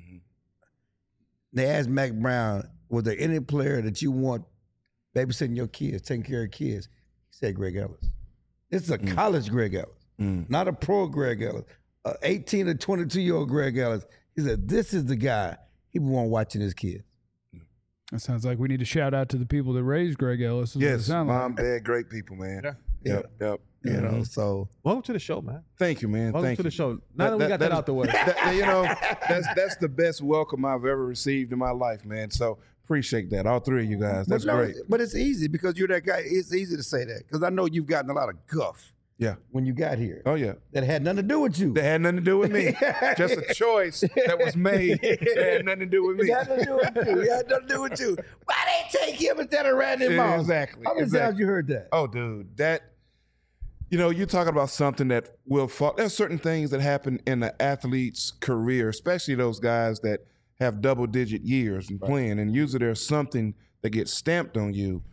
They asked Mac Brown, was there any player that you want babysitting your kids, taking care of kids? He said Greg Ellis. This is a college Greg Ellis, not a pro Greg Ellis. 18 to 22-year-old Greg Ellis. He said, this is the guy he would want watching his kids. That sounds like we need to shout out to the people that raised Greg Ellis. Is what it Yes, sounds mom, like. dad, great people, man. Yeah. Yep. You know, so Welcome to the show, man. Thank you, man. Welcome Thank to you. the show. Now that we got that out the way. You know, that's the best welcome I've ever received in my life, man. So appreciate that, all three of you guys. That's great. But it's easy because you're that guy. It's easy to say that because I know you've gotten a lot of guff Yeah. when you got here. Oh yeah. That had nothing to do with you. That had nothing to do with me. Just a choice that was made. That had nothing to do with me. It had nothing to do with you. It had nothing to do with you. Why they take him instead of Randy Moss? Exactly. How many times you heard that? Oh, dude, you're talking about something that will fall. There's certain things that happen in an athlete's career, especially those guys that have double-digit years and playing, and usually there's something that gets stamped on you.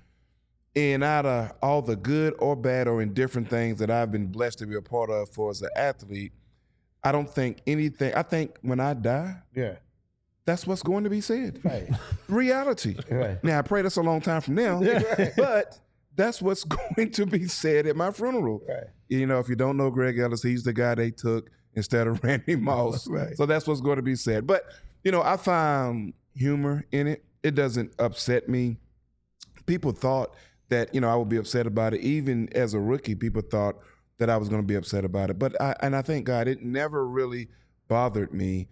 And out of all the good or bad or indifferent things that I've been blessed to be a part of for as an athlete, I don't think anything. I think when I die, Yeah. that's what's going to be said. Right. Reality. Right. Now, I pray that's a long time from now, but that's what's going to be said at my funeral. Right. You know, if you don't know Greg Ellis, he's the guy they took instead of Randy Moss. Right. So that's what's going to be said. But, I found humor in it. It doesn't upset me. People thought that, I would be upset about it. Even as a rookie, people thought that I was going to be upset about it. But I thank God it never really bothered me.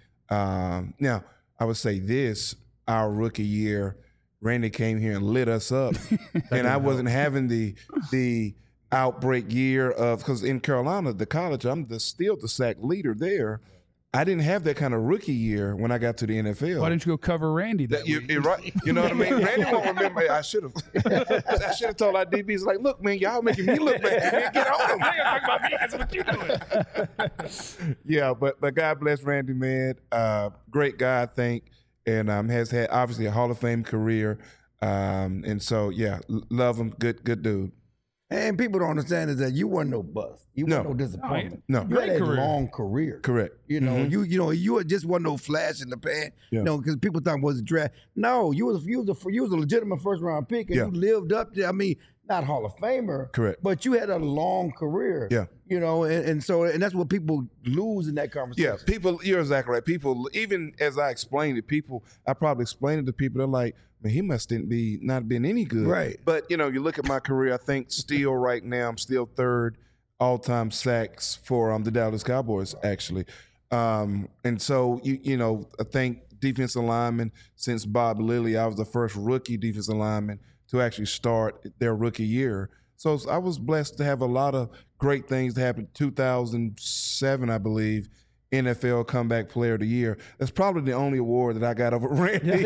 Now, I would say this, our rookie year, Randy came here and lit us up. And I wasn't having the outbreak year of, because in Carolina, the college, I'm still the sack leader there. I didn't have that kind of rookie year when I got to the NFL. Why didn't you go cover Randy that week? You're right. You know what I mean? Randy won't remember. I should have told our DBs, like, look, man, y'all making me look bad. Man, get on them. Talk about me. That's what you're doing. Yeah, but God bless Randy, man. Great guy, I think, and has had obviously a Hall of Fame career. And so, yeah, love him. Good dude. And people don't understand is that you weren't no bust. You weren't no disappointment. No. You had a career. long career. Correct. You know, you just wasn't no flash in the pan. Yeah. Because people thought it was a draft. No, you was a legitimate first round pick, and Yeah. you lived up to. I mean, not Hall of Famer. Correct. But you had a long career. Yeah. And that's what people lose in that conversation. Yeah, people, you're exactly right. People, even as I explained it, I probably explained it to people, they're like, man, he must not been any good. Right. But, you look at my career, I think still right now, I'm still third all-time sacks for the Dallas Cowboys, actually. And so, I think defensive lineman, since Bob Lilly, I was the first rookie defensive lineman to actually start their rookie year. So I was blessed to have a lot of great things that happened. 2007, I believe, NFL Comeback Player of the Year. That's probably the only award that I got over Randy.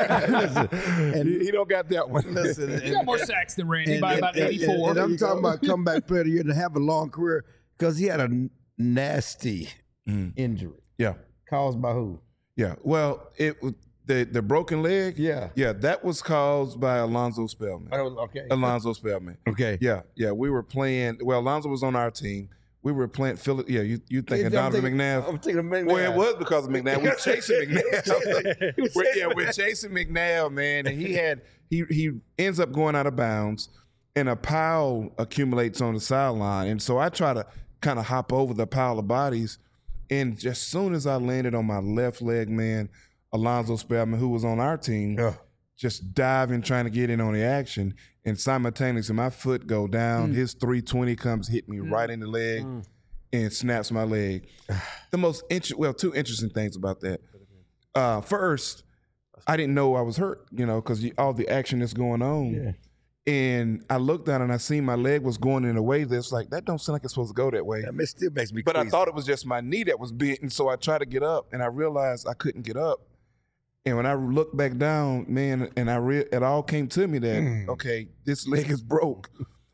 He don't got that one. Listen, You got more sacks than Randy by about 84. And I'm talking about comeback player of the year to have a long career because he had a nasty injury Yeah, caused by who? yeah. Well, it was the broken leg. Yeah. Yeah, that was caused by Alonzo Spellman. Okay. Alonzo Spellman. Okay. Yeah. We were playing. Well, Alonzo was on our team. We were playing Philly. Yeah, you thinking Donovan McNabb? I'm thinking McNabb. Well, it was because of McNabb. We're chasing McNabb. We're chasing McNabb, man. And he ends up going out of bounds, and a pile accumulates on the sideline. And so I try to kind of hop over the pile of bodies, and just as soon as I landed on my left leg, man, Alonzo Spellman, who was on our team, just diving, trying to get in on the action, and simultaneously my foot go down. His 320 comes, hit me right in the leg, and snaps my leg. Two interesting things about that. First, I didn't know I was hurt, because all the action that's going on. Yeah. And I looked down and I seen my leg was going in a way that's like, that don't sound like it's supposed to go that way. It still makes me But crazy. I thought it was just my knee that was bent, and so I tried to get up, and I realized I couldn't get up. And when I looked back down, man, and it all came to me that, okay, this leg is broke.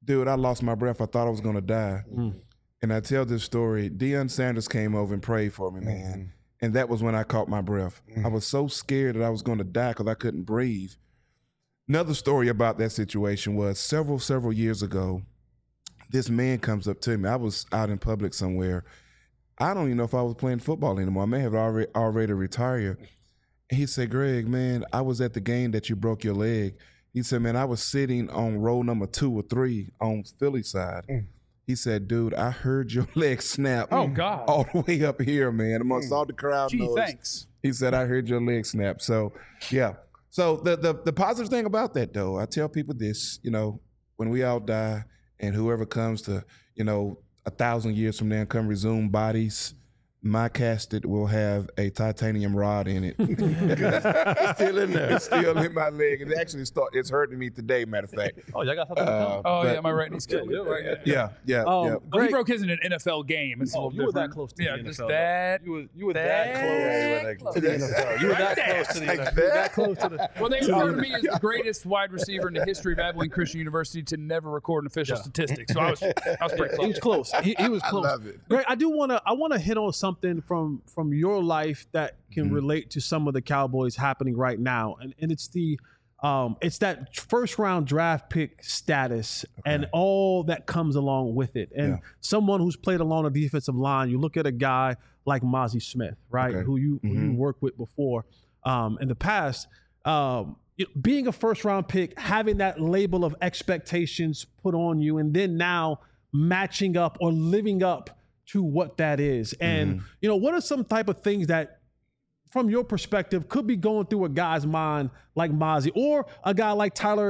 dude, I lost my breath. I thought I was going to die. And I tell this story. Deion Sanders came over and prayed for me, man. And that was when I caught my breath. I was so scared that I was going to die because I couldn't breathe. Another story about that situation was several years ago, this man comes up to me. I was out in public somewhere. I don't even know if I was playing football anymore. I may have already retired. And he said, Greg, man, I was at the game that you broke your leg. He said, man, I was sitting on row number 2 or 3 on Philly side. He said, dude, I heard your leg snap. Oh, God. All the way up here, man, amongst all the crowd Gee, noise. thanks. He said, I heard your leg snap. So, yeah. So the positive thing about that, though, I tell people this, you know, when we all die and whoever comes to, you know, 1,000 years from now and come resume bodies, my casket will have a titanium rod in it. It's still in there. It's still in my leg. It actually it's hurting me today, matter of fact. Oh, y'all got something to tell? Yeah, my right knee's killing me. Yeah. Well, he broke his in an NFL game. It's a little you were different. that close to the NFL. Just though. that. You were that close to the NFL. You were that close to the NFL. You were that close to the. Well, they refer to me as the greatest wide receiver in the history of Abilene Christian University to never record an official statistic. So I was pretty close. He was close. He was close. I love it. Greg, I want to hit on something from your life that can relate to some of the Cowboys happening right now, and it's that first round draft pick status and all that comes along with it. And someone who's played along the defensive line, you look at a guy like Mazi Smith, right, who you worked with before in the past. Being a first round pick, having that label of expectations put on you, and then now matching up or living up to what that is. And, you know, what are some type of things that, from your perspective, could be going through a guy's mind like Mazi or a guy like Tyler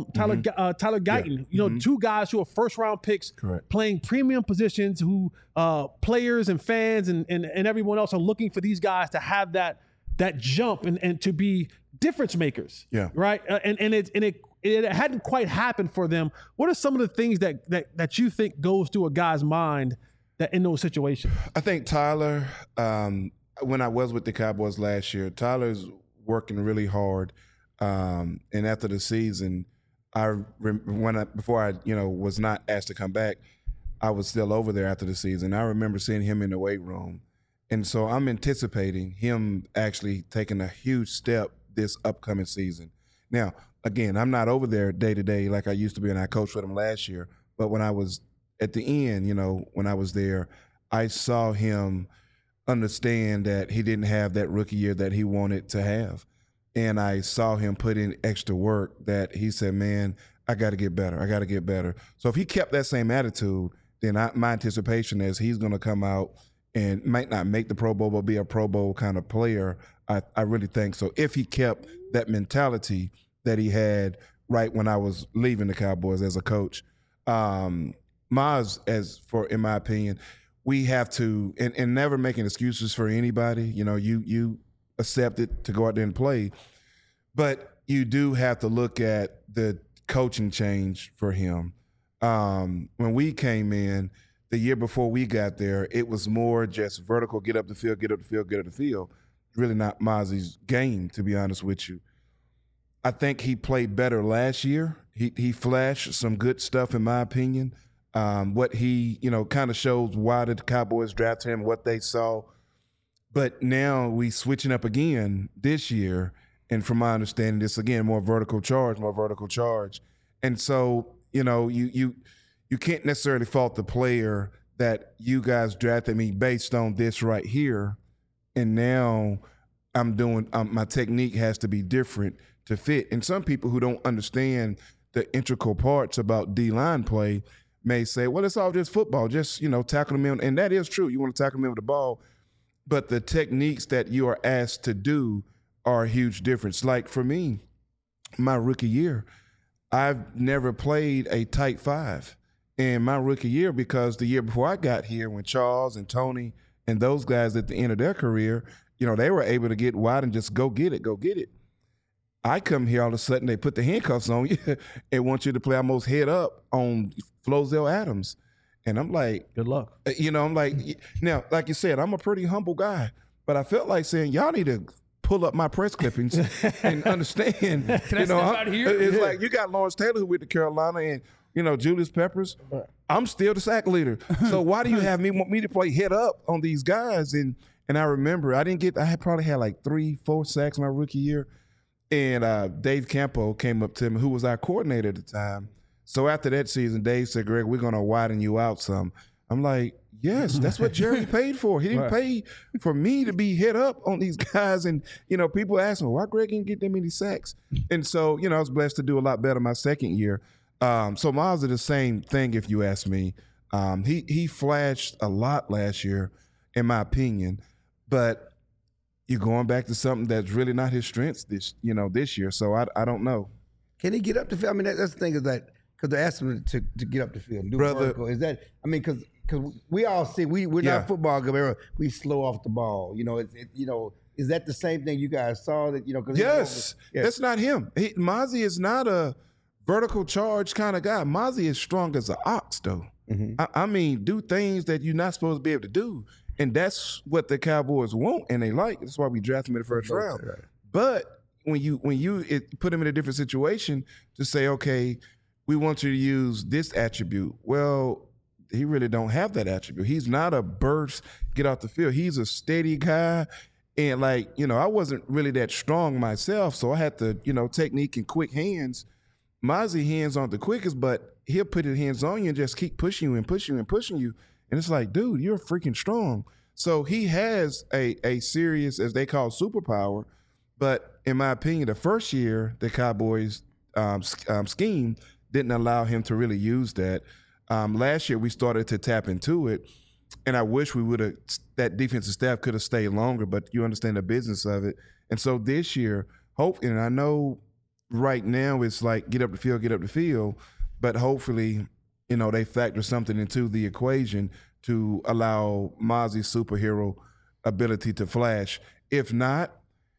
Guyton? You know, 2 guys who are first-round picks playing premium positions who players and fans and everyone else are looking for these guys to have that jump and to be difference makers. Yeah. Right? And it hadn't quite happened for them. What are some of the things that you think goes through a guy's mind that in those situations? I think Tyler, when I was with the Cowboys last year, Tyler's working really hard. And after the season, before I was not asked to come back, I was still over there after the season. I remember seeing him in the weight room. And so I'm anticipating him actually taking a huge step this upcoming season. Now, again, I'm not over there day to day like I used to be, and I coached with him last year. But when I was at the end, when I was there, I saw him understand that he didn't have that rookie year that he wanted to have. And I saw him put in extra work that he said, man, I got to get better. I got to get better. So if he kept that same attitude, then my anticipation is he's going to come out and might not make the Pro Bowl, but be a Pro Bowl kind of player. I really think so. If he kept that mentality that he had right when I was leaving the Cowboys as a coach. Maz, in my opinion, we have to, and never making excuses for anybody. You accept it to go out there and play, but you do have to look at the coaching change for him. When we came in, the year before we got there, it was more just vertical, get up the field, get up the field, get up the field. Really not Mazi's game, to be honest with you. I think he played better last year. He flashed some good stuff, in my opinion. What he, kind of shows why the Cowboys drafted him, what they saw. But now we switching up again this year, and from my understanding, it's again more vertical charge. And so, you can't necessarily fault the player that you guys drafted me based on this right here, and now I'm doing my technique has to be different to fit. And some people who don't understand the integral parts about D-line play may say, well, it's all just football, just, tackle them in. And that is true. You want to tackle them in with the ball. But the techniques that you are asked to do are a huge difference. Like for me, my rookie year, I've never played a tight 5 in my rookie year because the year before I got here, when Charles and Tony and those guys at the end of their career, they were able to get wide and just go get it. I come here, all of a sudden they put the handcuffs on you and want you to play almost head up on Flozell Adams. And I'm like, good luck. I'm like, now, like you said, I'm a pretty humble guy, but I felt like saying, y'all need to pull up my press clippings and understand. Can I step out here? It's like you got Lawrence Taylor who went to Carolina, and Julius Peppers, I'm still the sack leader. So why do you want me to play head up on these guys? And I remember I had probably had like 3-4 sacks my rookie year. And Dave Campo came up to me, who was our coordinator at the time. So after that season, Dave said, Greg, we're going to widen you out some. I'm like, yes, that's what Jerry paid for. He didn't pay for me to be hit up on these guys. And, people ask me, why Greg didn't get that many sacks? And so, I was blessed to do a lot better my second year. So Miles is the same thing, if you ask me. He flashed a lot last year, in my opinion. But you're going back to something that's really not his strengths this year. So I don't know. Can he get up the field? I mean, that's the thing is that because they asked him to get up the field and do vertical. Is that? I mean, because we all see we're not football guys. We slow off the ball. Is that the same thing you guys saw? That Yes, that's not him. Mozzie is not a vertical charge kind of guy. Mozzie is strong as an ox, though. Mm-hmm. I mean, do things that you're not supposed to be able to do, and that's what the Cowboys want and they like. That's why we drafted him in the first round. Right. But when you put him in a different situation to say, okay, we want you to use this attribute. Well, he really don't have that attribute. He's not a burst, get off the field. He's a steady guy. And I wasn't really that strong myself, so I had to, technique and quick hands. Mozzie hands aren't the quickest, but he'll put his hands on you and just keep pushing you and pushing you and pushing you. And it's like, dude, you're freaking strong. So he has a serious, as they call, superpower. But in my opinion, the first year, the Cowboys scheme didn't allow him to really use that. Last year, we started to tap into it, and I wish that defensive staff could have stayed longer, but you understand the business of it. And so this year, and I know right now it's like get up the field, but hopefully, they factor something into the equation to allow Mozzie's superhero ability to flash. If not,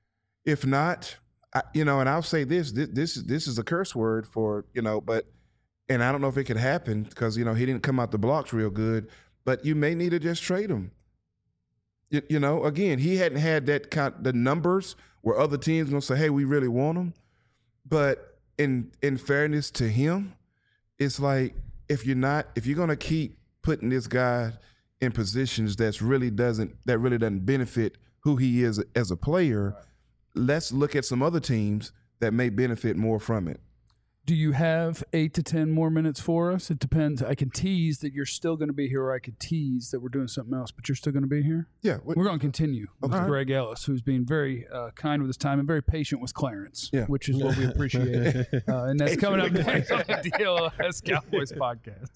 and I'll say this is a curse word for, but, and I don't know if it could happen because, he didn't come out the blocks real good, but you may need to just trade him. Again, he hadn't had the numbers where other teams going to say, hey, we really want him. But in fairness to him, it's like, if you're going to keep putting this guy in positions that really doesn't benefit who he is as a player, let's look at some other teams that may benefit more from it. Do you have 8 to 10 more minutes for us? It depends. I can tease that you're still going to be here, or I could tease that we're doing something else, but you're still going to be here? Yeah. We're going to continue with Greg Ellis, who's being very kind with his time and very patient with Clarence, which is what we appreciate. And that's coming up next on the DLS Cowboys podcast.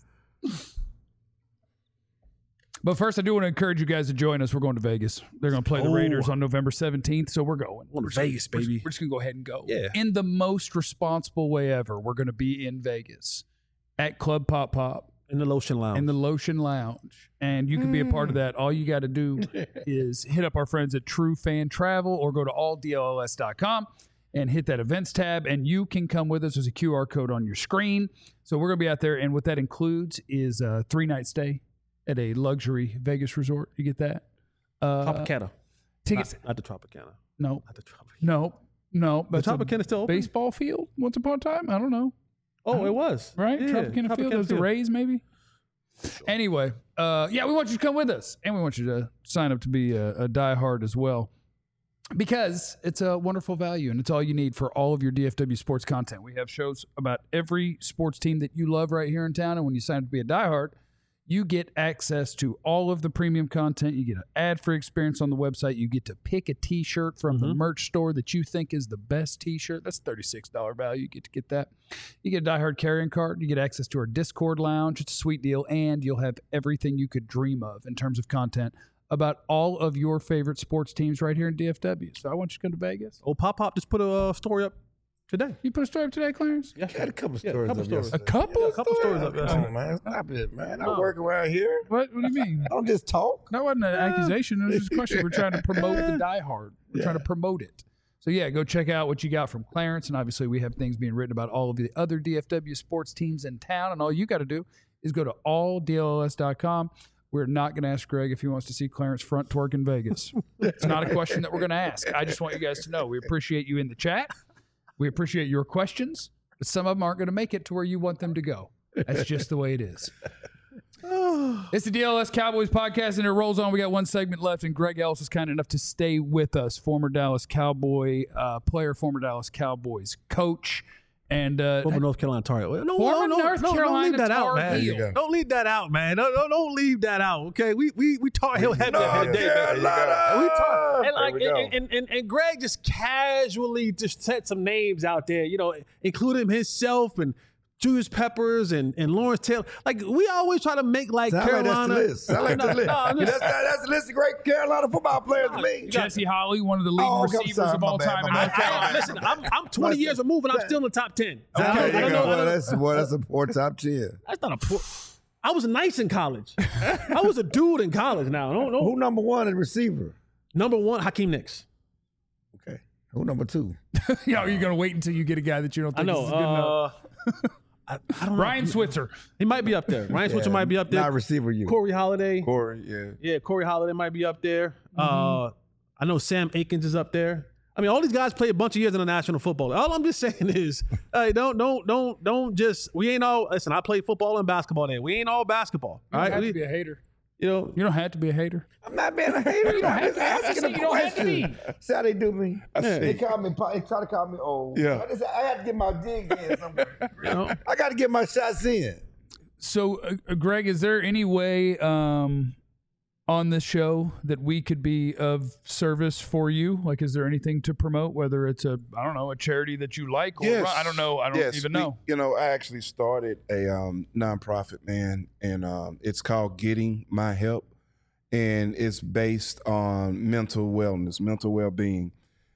But first, I do want to encourage you guys to join us. We're going to Vegas. They're going to play the Raiders on November 17th, so we're going. We're Vegas, baby. We're just going to go ahead and go. Yeah. In the most responsible way ever, we're going to be in Vegas at Club Pop Pop. In the Lotion Lounge. And you can be a part of that. All you got to do is hit up our friends at True Fan Travel or go to alldlls.com and hit that events tab, and you can come with us. There's a QR code on your screen. So we're going to be out there, and what that includes is a 3-night stay at a luxury Vegas resort. You get that? Tropicana. Tickets. Not the Tropicana. No. Not the Tropicana. No. The Tropicana is still open? Baseball field once upon a time? I don't know. Oh, it was. Right? Yeah, Tropicana Field. There's the Rays, maybe? Anyway, we want you to come with us. And we want you to sign up to be a diehard as well. Because it's a wonderful value, and it's all you need for all of your DFW sports content. We have shows about every sports team that you love right here in town. And when you sign up to be a diehard, you get access to all of the premium content. You get an ad-free experience on the website. You get to pick a T-shirt from the merch store that you think is the best T-shirt. That's $36 value. You get that. You get a diehard carrying card. You get access to our Discord lounge. It's a sweet deal. And you'll have everything you could dream of in terms of content about all of your favorite sports teams right here in DFW. So I want you to come to Vegas. Oh, Pop Just put a story up today. You put a story up today, Clarence? Yeah, I had a couple stories up yesterday. A couple stories up yesterday. Come on, man. Stop it, man. I work around here. What do you mean? I don't just talk. That wasn't an accusation. It was just a question. We're trying to promote the Die Hard. We're trying to promote it. So, go check out what you got from Clarence. And obviously, we have things being written about all of the other DFW sports teams in town. And all you got to do is go to alldlls.com. We're not going to ask Greg if he wants to see Clarence front twerk in Vegas. It's not a question that we're going to ask. I just want you guys to know we appreciate you in the chat. We appreciate your questions, but some of them aren't going to make it to where you want them to go. That's just the way it is. It's the DLS Cowboys podcast, and it rolls on. We got one segment left, and Greg Ellis was kind enough to stay with us. Former Dallas Cowboy player, former Dallas Cowboys coach, and former North Carolina Tar Heel. Former North Carolina don't leave that out, Tar man. Heel. Don't leave that out, man. Don't leave that out. Okay, we Tar Heel heavy at the day, man. We talk, and Greg just casually just set some names out there, including himself and Julius Peppers and Lawrence Taylor. Like, we always try to make like Carolina. That's the list. That's the list of great Carolina football players to me. Jesse Holley, one of the leading receivers of all time in North Carolina. Listen, I'm 20 years removed and I'm still in the top 10. That's a poor top 10. That's not a poor. I was nice in college. I was a dude in college now. No. Who number one in receiver? Number one, Hakeem Nicks. Okay. Who number two? You're going to wait until you get a guy that you don't think is good enough. I don't know. Ryan Switzer. He might be up there. Ryan Switzer might be up there. Not receiver, you. Corey Holiday. Yeah, Corey Holiday might be up there. I know Sam Akins is up there. I mean, all these guys play a bunch of years in the National Football. All I'm just saying is, hey, don't just. We ain't all. Listen, I played football and basketball there. We ain't all basketball. You don't have to be a hater. You don't have to be a hater. I'm not being a hater. You don't have to ask You don't have to be. See how they do me? They try to call me old. Yeah. I had to get my digs in somewhere. I got to get my shots in. So, Greg, is there any way on this show that we could be of service for you? Like, is there anything to promote, whether it's a charity that you like, or Yes. I don't know. I don't even know. I actually started a nonprofit, man, and it's called Getting My Help, and it's based on mental wellness, mental well-being.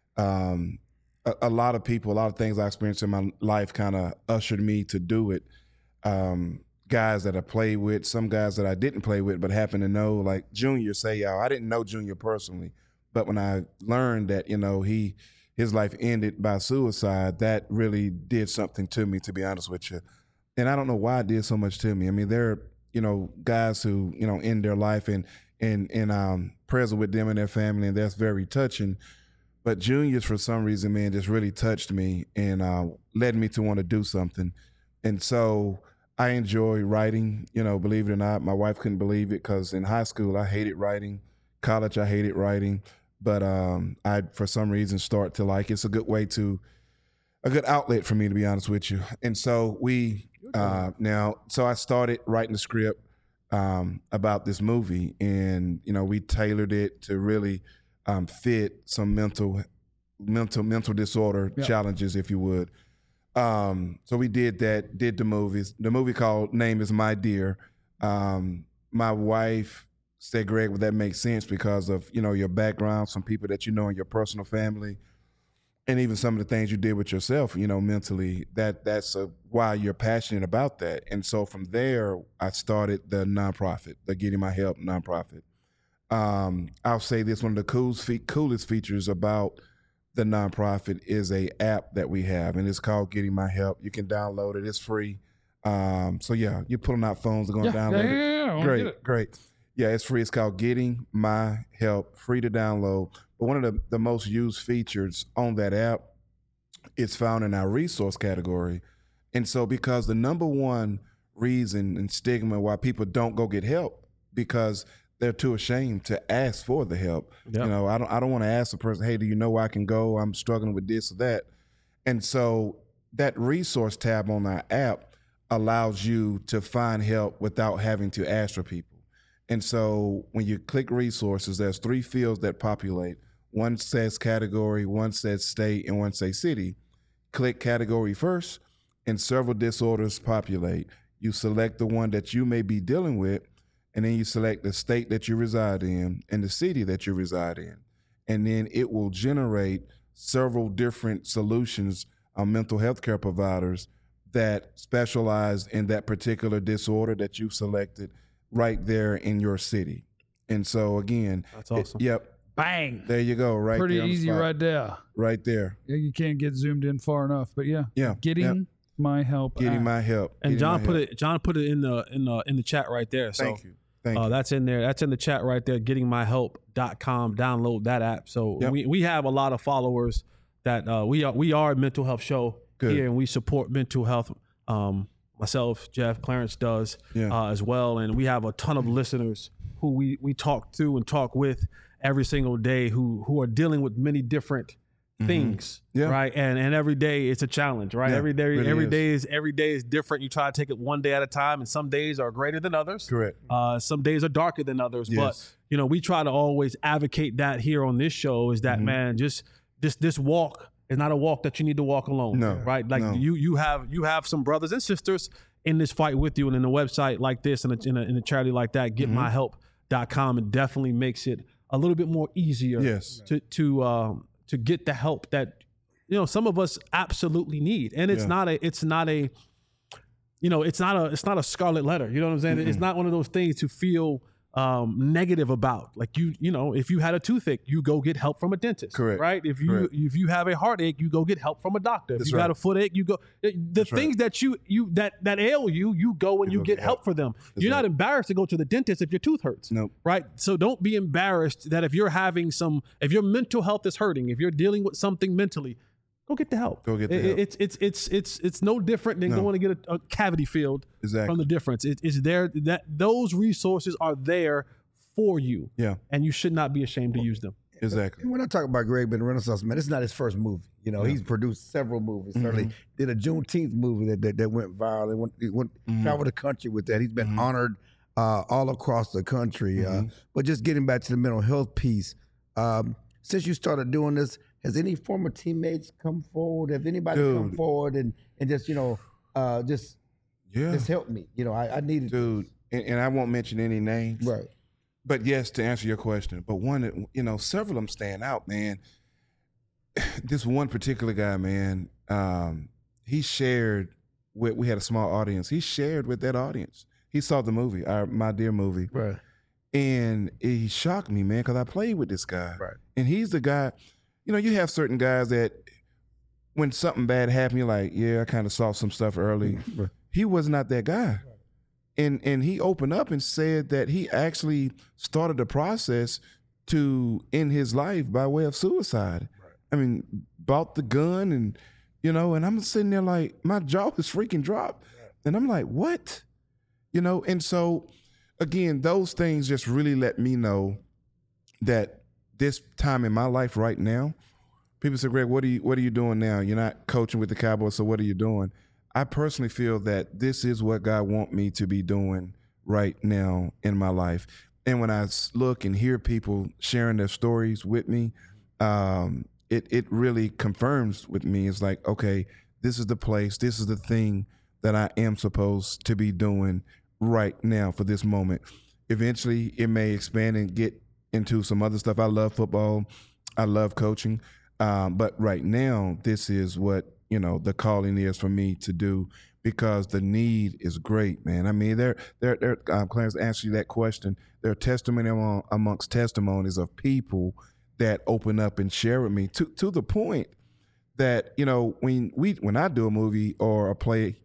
A lot of people, a lot of things I experienced in my life kind of ushered me to do it. Guys that I played with, some guys that I didn't play with but happen to know, like Junior Seau. I didn't know Junior personally, but when I learned that, his life ended by suicide, that really did something to me, to be honest with you. And I don't know why it did so much to me. I mean, there are, guys who, end their life and present with them and their family, and that's very touching. But Junior's, for some reason, man, just really touched me and led me to want to do something. And so I enjoy writing, believe it or not. My wife couldn't believe it because in high school, I hated writing. College, I hated writing. But I, for some reason, start to like it's a good outlet for me, to be honest with you. And so I started writing the script about this movie, and, we tailored it to really fit some mental disorder challenges, if you would. So we did that, did the movies. The movie called Name is My Dear. My wife said, Greg, would that make sense because of, your background, some people that in your personal family, and even some of the things you did with yourself, mentally, that's why you're passionate about that. And so from there, I started the nonprofit, the Getting My Help nonprofit. I'll say this, one of the coolest features about the nonprofit is a app that we have, and it's called Getting My Help. You can download it. It's free. You're pulling out phones and going to download it. Yeah. Great. Yeah, it's free. It's called Getting My Help, free to download. But one of the most used features on that app is found in our resource category. And so because the number one reason and stigma why people don't go get help, because they're too ashamed to ask for the help. Yep. I don't want to ask the person, hey, do you know where I can go? I'm struggling with this or that. And so that resource tab on our app allows you to find help without having to ask for people. And so when you click resources, there's 3 fields that populate. One says category, one says state, and one says city. Click category first, and several disorders populate. You select the one that you may be dealing with, and then you select the state that you reside in and the city that you reside in. And then it will generate several different solutions on mental health care providers that specialize in that particular disorder that you selected right there in your city. And so again, that's awesome. Yep. Bang. There you go. Right. Pretty there on the easy spot. right there. Right there. Yeah, you can't get zoomed in far enough, but yeah. Getting My Help. Getting My Help. And John put it in the chat right there. So Thank you. Thank you. That's in there. That's in the chat right there. GettingMyHelp.com. Download that app. So we have a lot of followers that we are a mental health show here, and we support mental health myself, Jeff, Clarence does as well. And we have a ton of listeners who we talk to and talk with every single day who are dealing with many different things, right? And every day it's a challenge, right? Every day is different. You try to take it one day at a time, and some days are greater than others. Correct. Some days are darker than others, but we try to always advocate that here on this show is that man, just this walk is not a walk that you need to walk alone. No, right? Like you have some brothers and sisters in this fight with you, and in a website like this and in a charity like that, getmyhelp.com, it definitely makes it a little bit more easier to get the help that some of us absolutely need. And it's not a scarlet letter. You know what I'm saying? It's not one of those things to feel negative about. Like if you had a toothache, you go get help from a dentist. Correct. Right? If you have a heartache, you go get help from a doctor. If you got a footache, you go the things that that ail you go and you get help for them. You're not embarrassed to go to the dentist if your tooth hurts. Nope. Right? So don't be embarrassed that if your mental health is hurting, if you're dealing with something mentally, go get the help. Go get the help. It's no different than going to get a cavity filled. Exactly. From the difference. It's there that those resources are there for you. Yeah. And you should not be ashamed to use them. Exactly. When I talk about Greg being a Renaissance man, it's not his first movie. He's produced several movies. Certainly did a Juneteenth movie that went viral and went traveled the country with that. He's been honored all across the country. But just getting back to the mental health piece, since you started doing this, has any former teammates come forward? Have anybody come forward and just just help me? I needed and I won't mention any names. Right. But yes, to answer your question, but one, several of them stand out, man. This one particular guy, man, he shared we had a small audience. He shared with that audience. He saw the movie, My Dear movie. Right. And he shocked me, man, because I played with this guy. Right. And he's the guy, you have certain guys that when something bad happened, you're like, I kind of saw some stuff early. Right. He was not that guy. And he opened up and said that he actually started the process to end his life by way of suicide. Right. I mean, bought the gun and I'm sitting there like, my jaw is freaking dropped. Right. And I'm like, what? And so, again, those things just really let me know that this time in my life right now, people say, Greg, what are you doing now? You're not coaching with the Cowboys, so what are you doing? I personally feel that this is what God wants me to be doing right now in my life. And when I look and hear people sharing their stories with me, it really confirms with me. It's like, okay, this is the place, this is the thing that I am supposed to be doing right now for this moment. Eventually, it may expand and get into some other stuff. I love football. I love coaching. But right now, this is what the calling is for me to do, because the need is great, man. I mean, Clarence, answer you that question. There are testimony amongst testimonies of people that open up and share with me to the point that, when I do a movie or a play,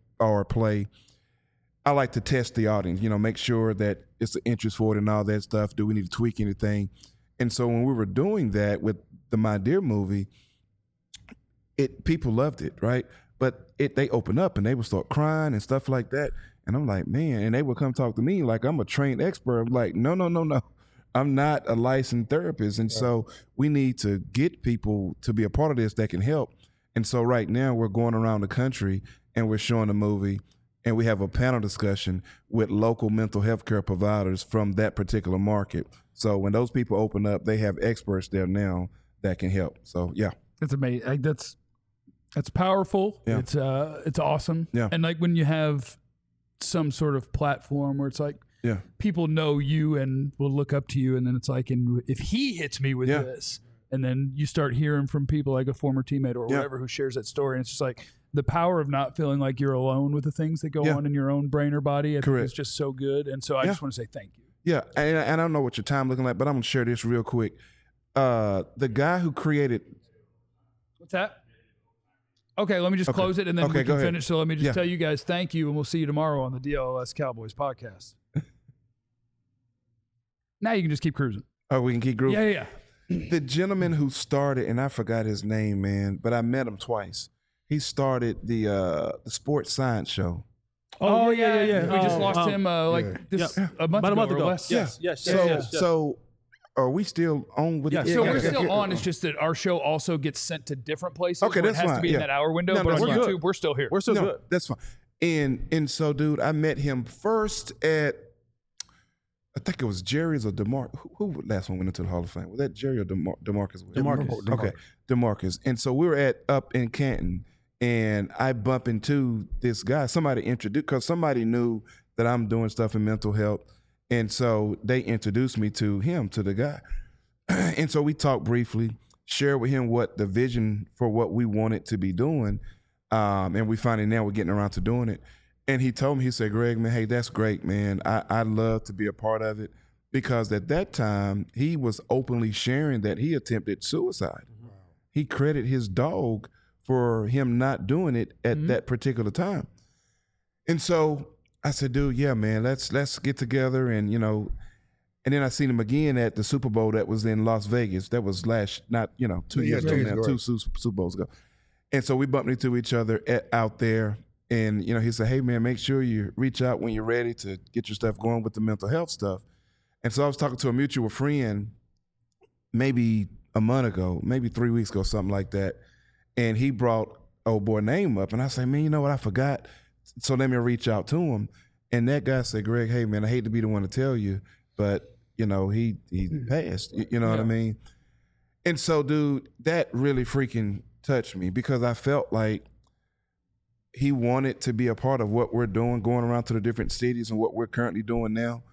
I like to test the audience, make sure that it's an interest for it and all that stuff. Do we need to tweak anything? And so when we were doing that with the My Dear movie, people loved it, right? But they open up and they would start crying and stuff like that. And I'm like, man, and they would come talk to me like I'm a trained expert. I'm like, no. I'm not a licensed therapist. And so we need to get people to be a part of this that can help. And so right now we're going around the country and we're showing the movie, and we have a panel discussion with local mental health care providers from that particular market. So when those people open up, they have experts there now that can help. So, yeah. That's amazing. That's powerful. Yeah. It's awesome. Yeah. And like when you have some sort of platform where it's like, people know you and will look up to you, and then it's like, and if he hits me with this, and then you start hearing from people like a former teammate or whatever who shares that story, and it's just like the power of not feeling like you're alone with the things that go on in your own brain or body. I think is just so good, and so I just want to say thank you. Yeah, and I don't know what your time looking like, but I'm gonna share this real quick. The guy who created, what's that? Okay, let me just close it, and then we can finish. So let me just tell you guys thank you, and we'll see you tomorrow on the DLS Cowboys podcast. Now you can just keep cruising. Oh, we can keep cruising? Yeah. The gentleman who started, and I forgot his name, man, but I met him twice. He started the Sports Science Show. Oh, yeah. yeah. We just lost him a month About a month ago. ago. Or less. Yes. So are we still on with Yeah, the so we're still on. It's just that our show also gets sent to different places. Okay, where that's it has fine. to be in Yeah. that hour window. No, but on that's YouTube, fine. we're still here. We're still No, good. that's fine. And so, dude, I met him first at, I think it was Jerry's or DeMarcus. Who last one went into the Hall of Fame? Was that Jerry or DeMarcus? DeMarcus. Okay, DeMarcus. And so we were up in Canton, and I bump into this guy. Somebody introduced, because somebody knew that I'm doing stuff in mental health. And so they introduced me to him, to the guy. And so we talked briefly, shared with him what the vision for what we wanted to be doing. And we finally now we're getting around to doing it. And he told me, he said, Greg, man, hey, that's great, man. I'd love to be a part of it. Because at that time, he was openly sharing that he attempted suicide. Wow. He credited his dog for him not doing it at that particular time. And so I said, dude, yeah, man, let's get together. And, you know, and then I seen him again at the Super Bowl that was in Las Vegas. That was 2 years ago now, two Super Bowls ago. And so we bumped into each other out there. And, you know, he said, hey, man, make sure you reach out when you're ready to get your stuff going with the mental health stuff. And so I was talking to a mutual friend maybe a month ago, maybe 3 weeks ago, something like that. And he brought old boy name up. And I said, man, you know what? I forgot. So let me reach out to him. And that guy said, Greg, hey, man, I hate to be the one to tell you, but, you know, he passed. You know what I mean? And so, dude, that really freaking touched me because I felt like he wanted to be a part of what we're doing, going around to the different cities and what we're currently doing now.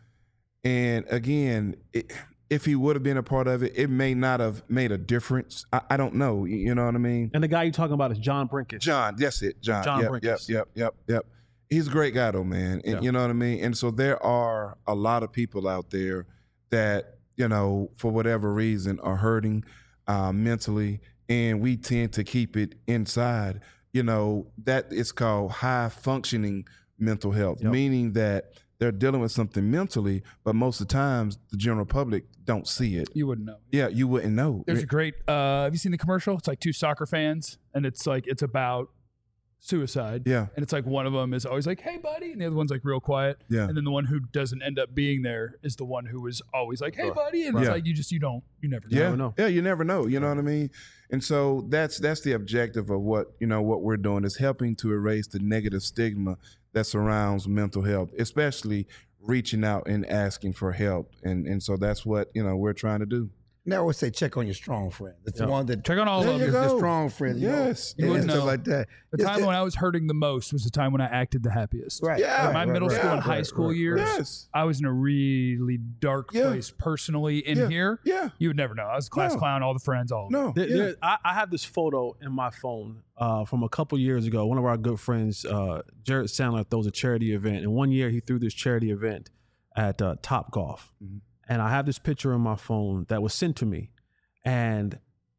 And again, if he would have been a part of it, it may not have made a difference. I don't know. You know what I mean? And the guy you're talking about is John Brinkus. John, that's it. John Brinkus. Yep. He's a great guy though, man. And you know what I mean? And so there are a lot of people out there that, you know, for whatever reason are hurting mentally, and we tend to keep it inside. You know, that is called high functioning mental health, meaning that they're dealing with something mentally, but most of the times the general public don't see it. You wouldn't know. Yeah, you wouldn't know. There's a great, have you seen the commercial? It's like two soccer fans, and it's about suicide. Yeah. And it's like one of them is always like, hey, buddy. And the other one's like real quiet. Yeah. And then the one who doesn't end up being there is the one who is always like, hey, buddy. And it's like, you never know. Yeah, you never know. You know what I mean? And so that's the objective of what we're doing is helping to erase the negative stigma that surrounds mental health, especially reaching out and asking for help. And so that's what, we're trying to do. Now I always say check on your strong friend. It's the one that check on all of them. The strong friend. Yes. You wouldn't know, know. stuff like that. The time when I was hurting the most was the time when I acted the happiest. Right. Yeah. My middle school and high school years, Yes. I was in a really dark place personally in here. Yeah. You would never know. I was a class clown, all the friends, all of them. No. I have this photo in my phone from a couple years ago. One of our good friends, Jared Sandler, throws a charity event. And one year he threw this charity event at Top Golf. Mm-hmm. And I have this picture on my phone that was sent to me. And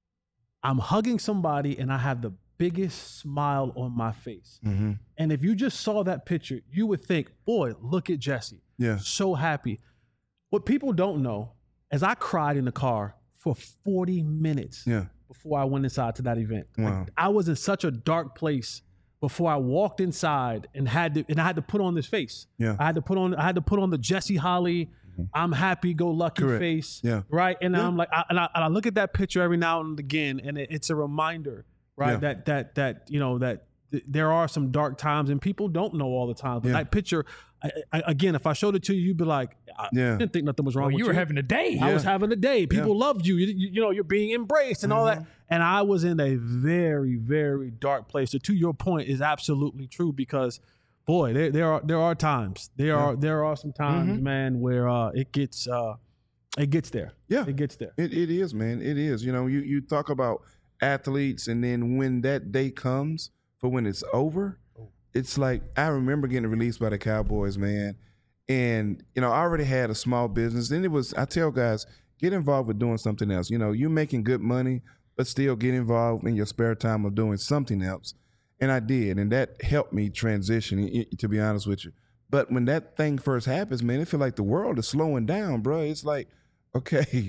I'm hugging somebody and I have the biggest smile on my face. Mm-hmm. And if you just saw that picture, you would think, boy, look at Jesse. Yeah. So happy. What people don't know is I cried in the car for 40 minutes before I went inside to that event. Wow. Like, I was in such a dark place before I walked inside and I had to put on this face. Yeah. I had to put on the Jesse Holly, I'm happy go lucky face. Yeah. Right. And I'm like, I look at that picture every now and again, and it's a reminder, right? Yeah. That there are some dark times and people don't know all the time. But that picture, again, if I showed it to you, you'd be like, I didn't think nothing was wrong with you. You were having a day. I was having a day. People loved you. You're being embraced and all that. And I was in a very, very dark place. So to your point is absolutely true because, boy, there are times. There are some times, man, where it gets there. Yeah. It gets there. It is, man. It is. You talk about athletes, and then when that day comes for when it's over, it's like I remember getting released by the Cowboys, man. And, I already had a small business. And I tell guys, get involved with doing something else. You're making good money, but still get involved in your spare time of doing something else. And I did, and that helped me transition, to be honest with you. But when that thing first happens, man, it feels like the world is slowing down, bro. It's like, okay,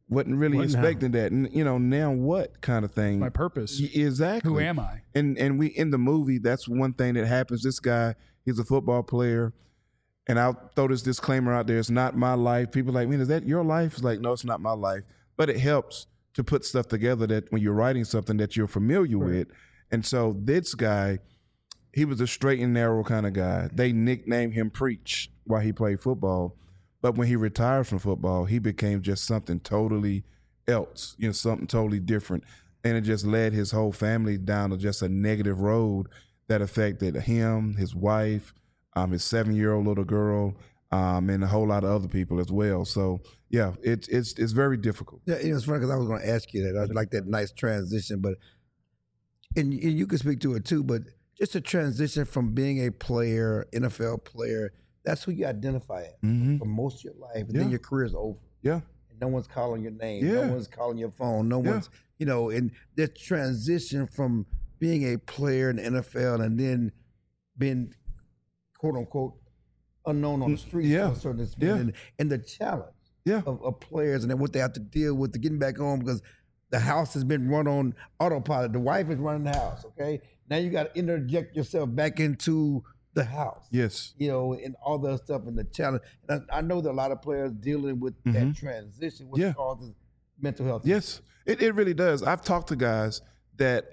wasn't really expecting that. And, now what kind of thing? My purpose. Exactly. Who am I? And we in the movie, that's one thing that happens. This guy, he's a football player. And I'll throw this disclaimer out there. It's not my life. People are like, man, is that your life? It's like, no, it's not my life. But it helps to put stuff together that when you're writing something that you're familiar with. And so this guy, he was a straight and narrow kind of guy. They nicknamed him Preach while he played football. But when he retired from football, he became just something totally else, something totally different. And it just led his whole family down to just a negative road that affected him, his wife, his 7-year-old little girl, and a whole lot of other people as well. So, yeah, it's very difficult. Yeah, it's funny because I was going to ask you that. I like that nice transition, but and you can speak to it too. But just a transition from being a player, NFL player, that's who you identify as for most of your life, and then your career is over. Yeah, and no one's calling your name. Yeah. No one's calling your phone. No one's and the transition from being a player in the NFL and then being quote unquote unknown on the streets to a certain extent, and the challenge of players and then what they have to deal with to getting back home because the house has been run on autopilot. The wife is running the house. Okay, now you got to interject yourself back into the house. Yes, and all the stuff and the challenge. And I know that a lot of players dealing with that transition, which causes mental health. Yes, it really does. I've talked to guys that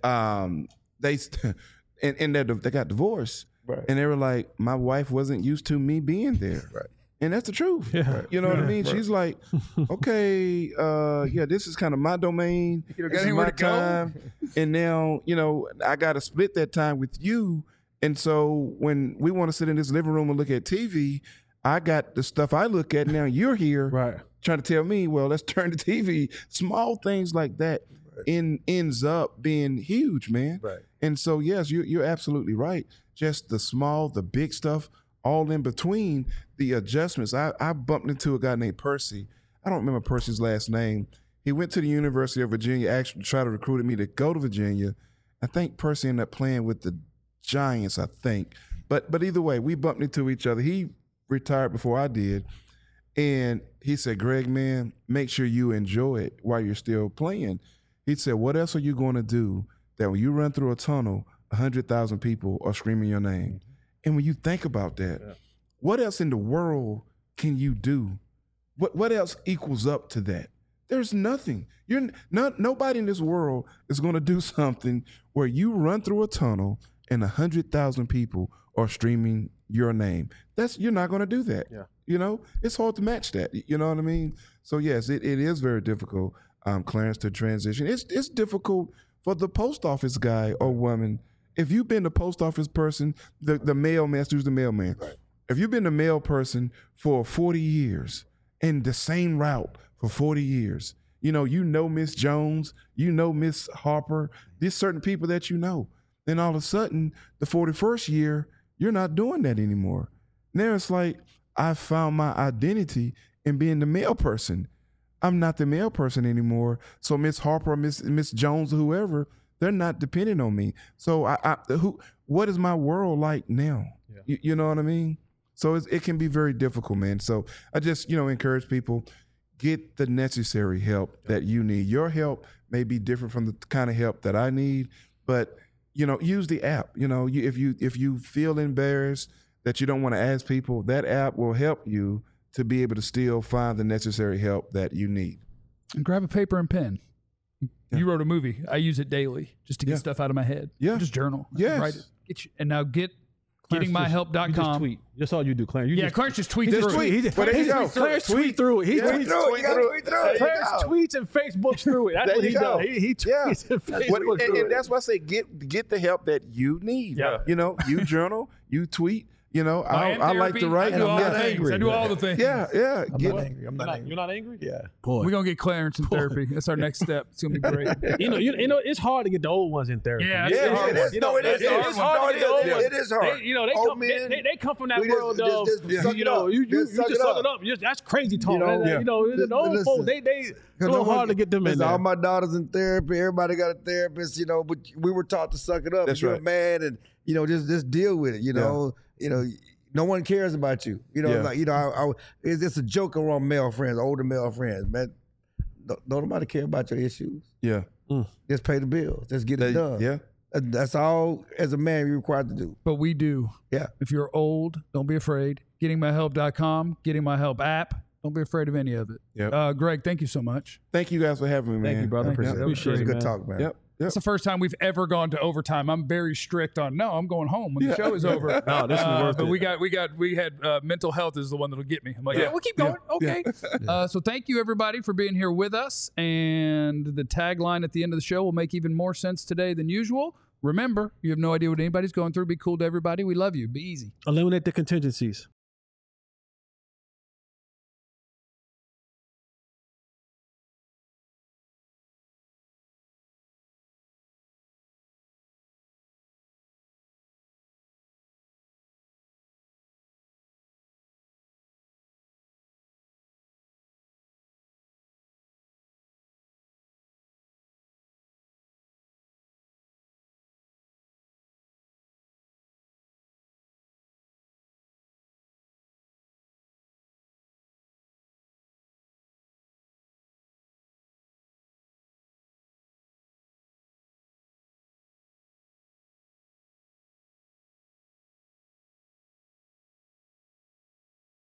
they got divorced. Right. And they were like, my wife wasn't used to me being there. Right. And that's the truth. Yeah. You know what I mean? She's like, okay, this is kind of my domain. This is my time. And now, I got to split that time with you. And so when we want to sit in this living room and look at TV, I got the stuff I look at now. You're here trying to tell me, well, let's turn the TV. Small things like that ends up being huge, man. Right. And so, yes, you're absolutely right. Just the small, the big stuff, all in between, the adjustments. I bumped into a guy named Percy. I don't remember Percy's last name. He went to the University of Virginia, actually tried to recruit me to go to Virginia. I think Percy ended up playing with the Giants, I think. But either way, we bumped into each other. He retired before I did. And he said, Greg, man, make sure you enjoy it while you're still playing. He said, what else are you going to do that when you run through a tunnel, 100,000 people are screaming your name? And when you think about that, what else in the world can you do? What else equals up to that? There's nothing. Nobody in this world is going to do something where you run through a tunnel and 100,000 people are streaming your name. You're not going to do that. Yeah. It's hard to match that. You know what I mean? So yes, it is very difficult, Clarence, to transition. It's difficult for the post office guy or woman. If you've been the post office person, the mailman, let's use the mailman. Right. If you've been the mail person for 40 years and the same route for 40 years, Miss Jones, Miss Harper, there's certain people that then all of a sudden, the 41st year, you're not doing that anymore. Now it's like, I found my identity in being the mail person. I'm not the mail person anymore. So Miss Harper, Miss Jones, or whoever, they're not depending on me. So what is my world like now? Yeah. You know what I mean? So it can be very difficult, man. So I just, encourage people, get the necessary help that you need. Your help may be different from the kind of help that I need, but use the app. If you feel embarrassed that you don't want to ask people, that app will help you to be able to still find the necessary help that you need. And grab a paper and pen. Yeah. You wrote a movie. I use it daily just to get stuff out of my head. Yeah. Just journal. Yes. Write it. And now get gettingmyhelp.com. You just tweet. That's all you do, Clarence. Clarence just tweets through it. Clarence tweet through it. He tweets through it. Clarence tweets and Facebooks through it. That's what he does. He tweets and Facebooks through it. And that's why I say get the help that you need. Yeah. You journal, you tweet. I like to write. I do all the things. Yeah. I'm not angry. You're not angry? Yeah. We're going to get Clarence in therapy. That's our next step. It's going to be great. It's hard to get the old ones in therapy. Yeah, it is. It's hard to get the old ones. It is hard. They come from that world of, you just suck it up. That's crazy talk. The old folks, they a little hard to get them in there. All my daughters in therapy. Everybody got a therapist, but we were taught to suck it up. That's you're right. mad and, just deal with it, no one cares about you. It's a joke around male friends, older male friends, man. don't nobody care about your issues. Yeah. Just pay the bills. Just get it done. Yeah. That's all as a man you're required to do. But we do. Yeah. If you're old, don't be afraid. GettingMyHelp.com, Getting My Help app. Don't be afraid of any of it. Yep. Greg, thank you so much. Thank you guys for having me, man. Thank you, brother. I appreciate it. Appreciate it, Good man. talk, man. Yep. It's the first time we've ever gone to overtime. I'm very strict on I'm going home when the show is over. No, this is worth but it. we had mental health is the one that'll get me. I'm like, we'll keep going. Okay. So thank you everybody for being here with us. And the tagline at the end of the show will make even more sense today than usual. Remember, you have no idea what anybody's going through. Be cool to everybody. We love you. Be easy. Eliminate the contingencies.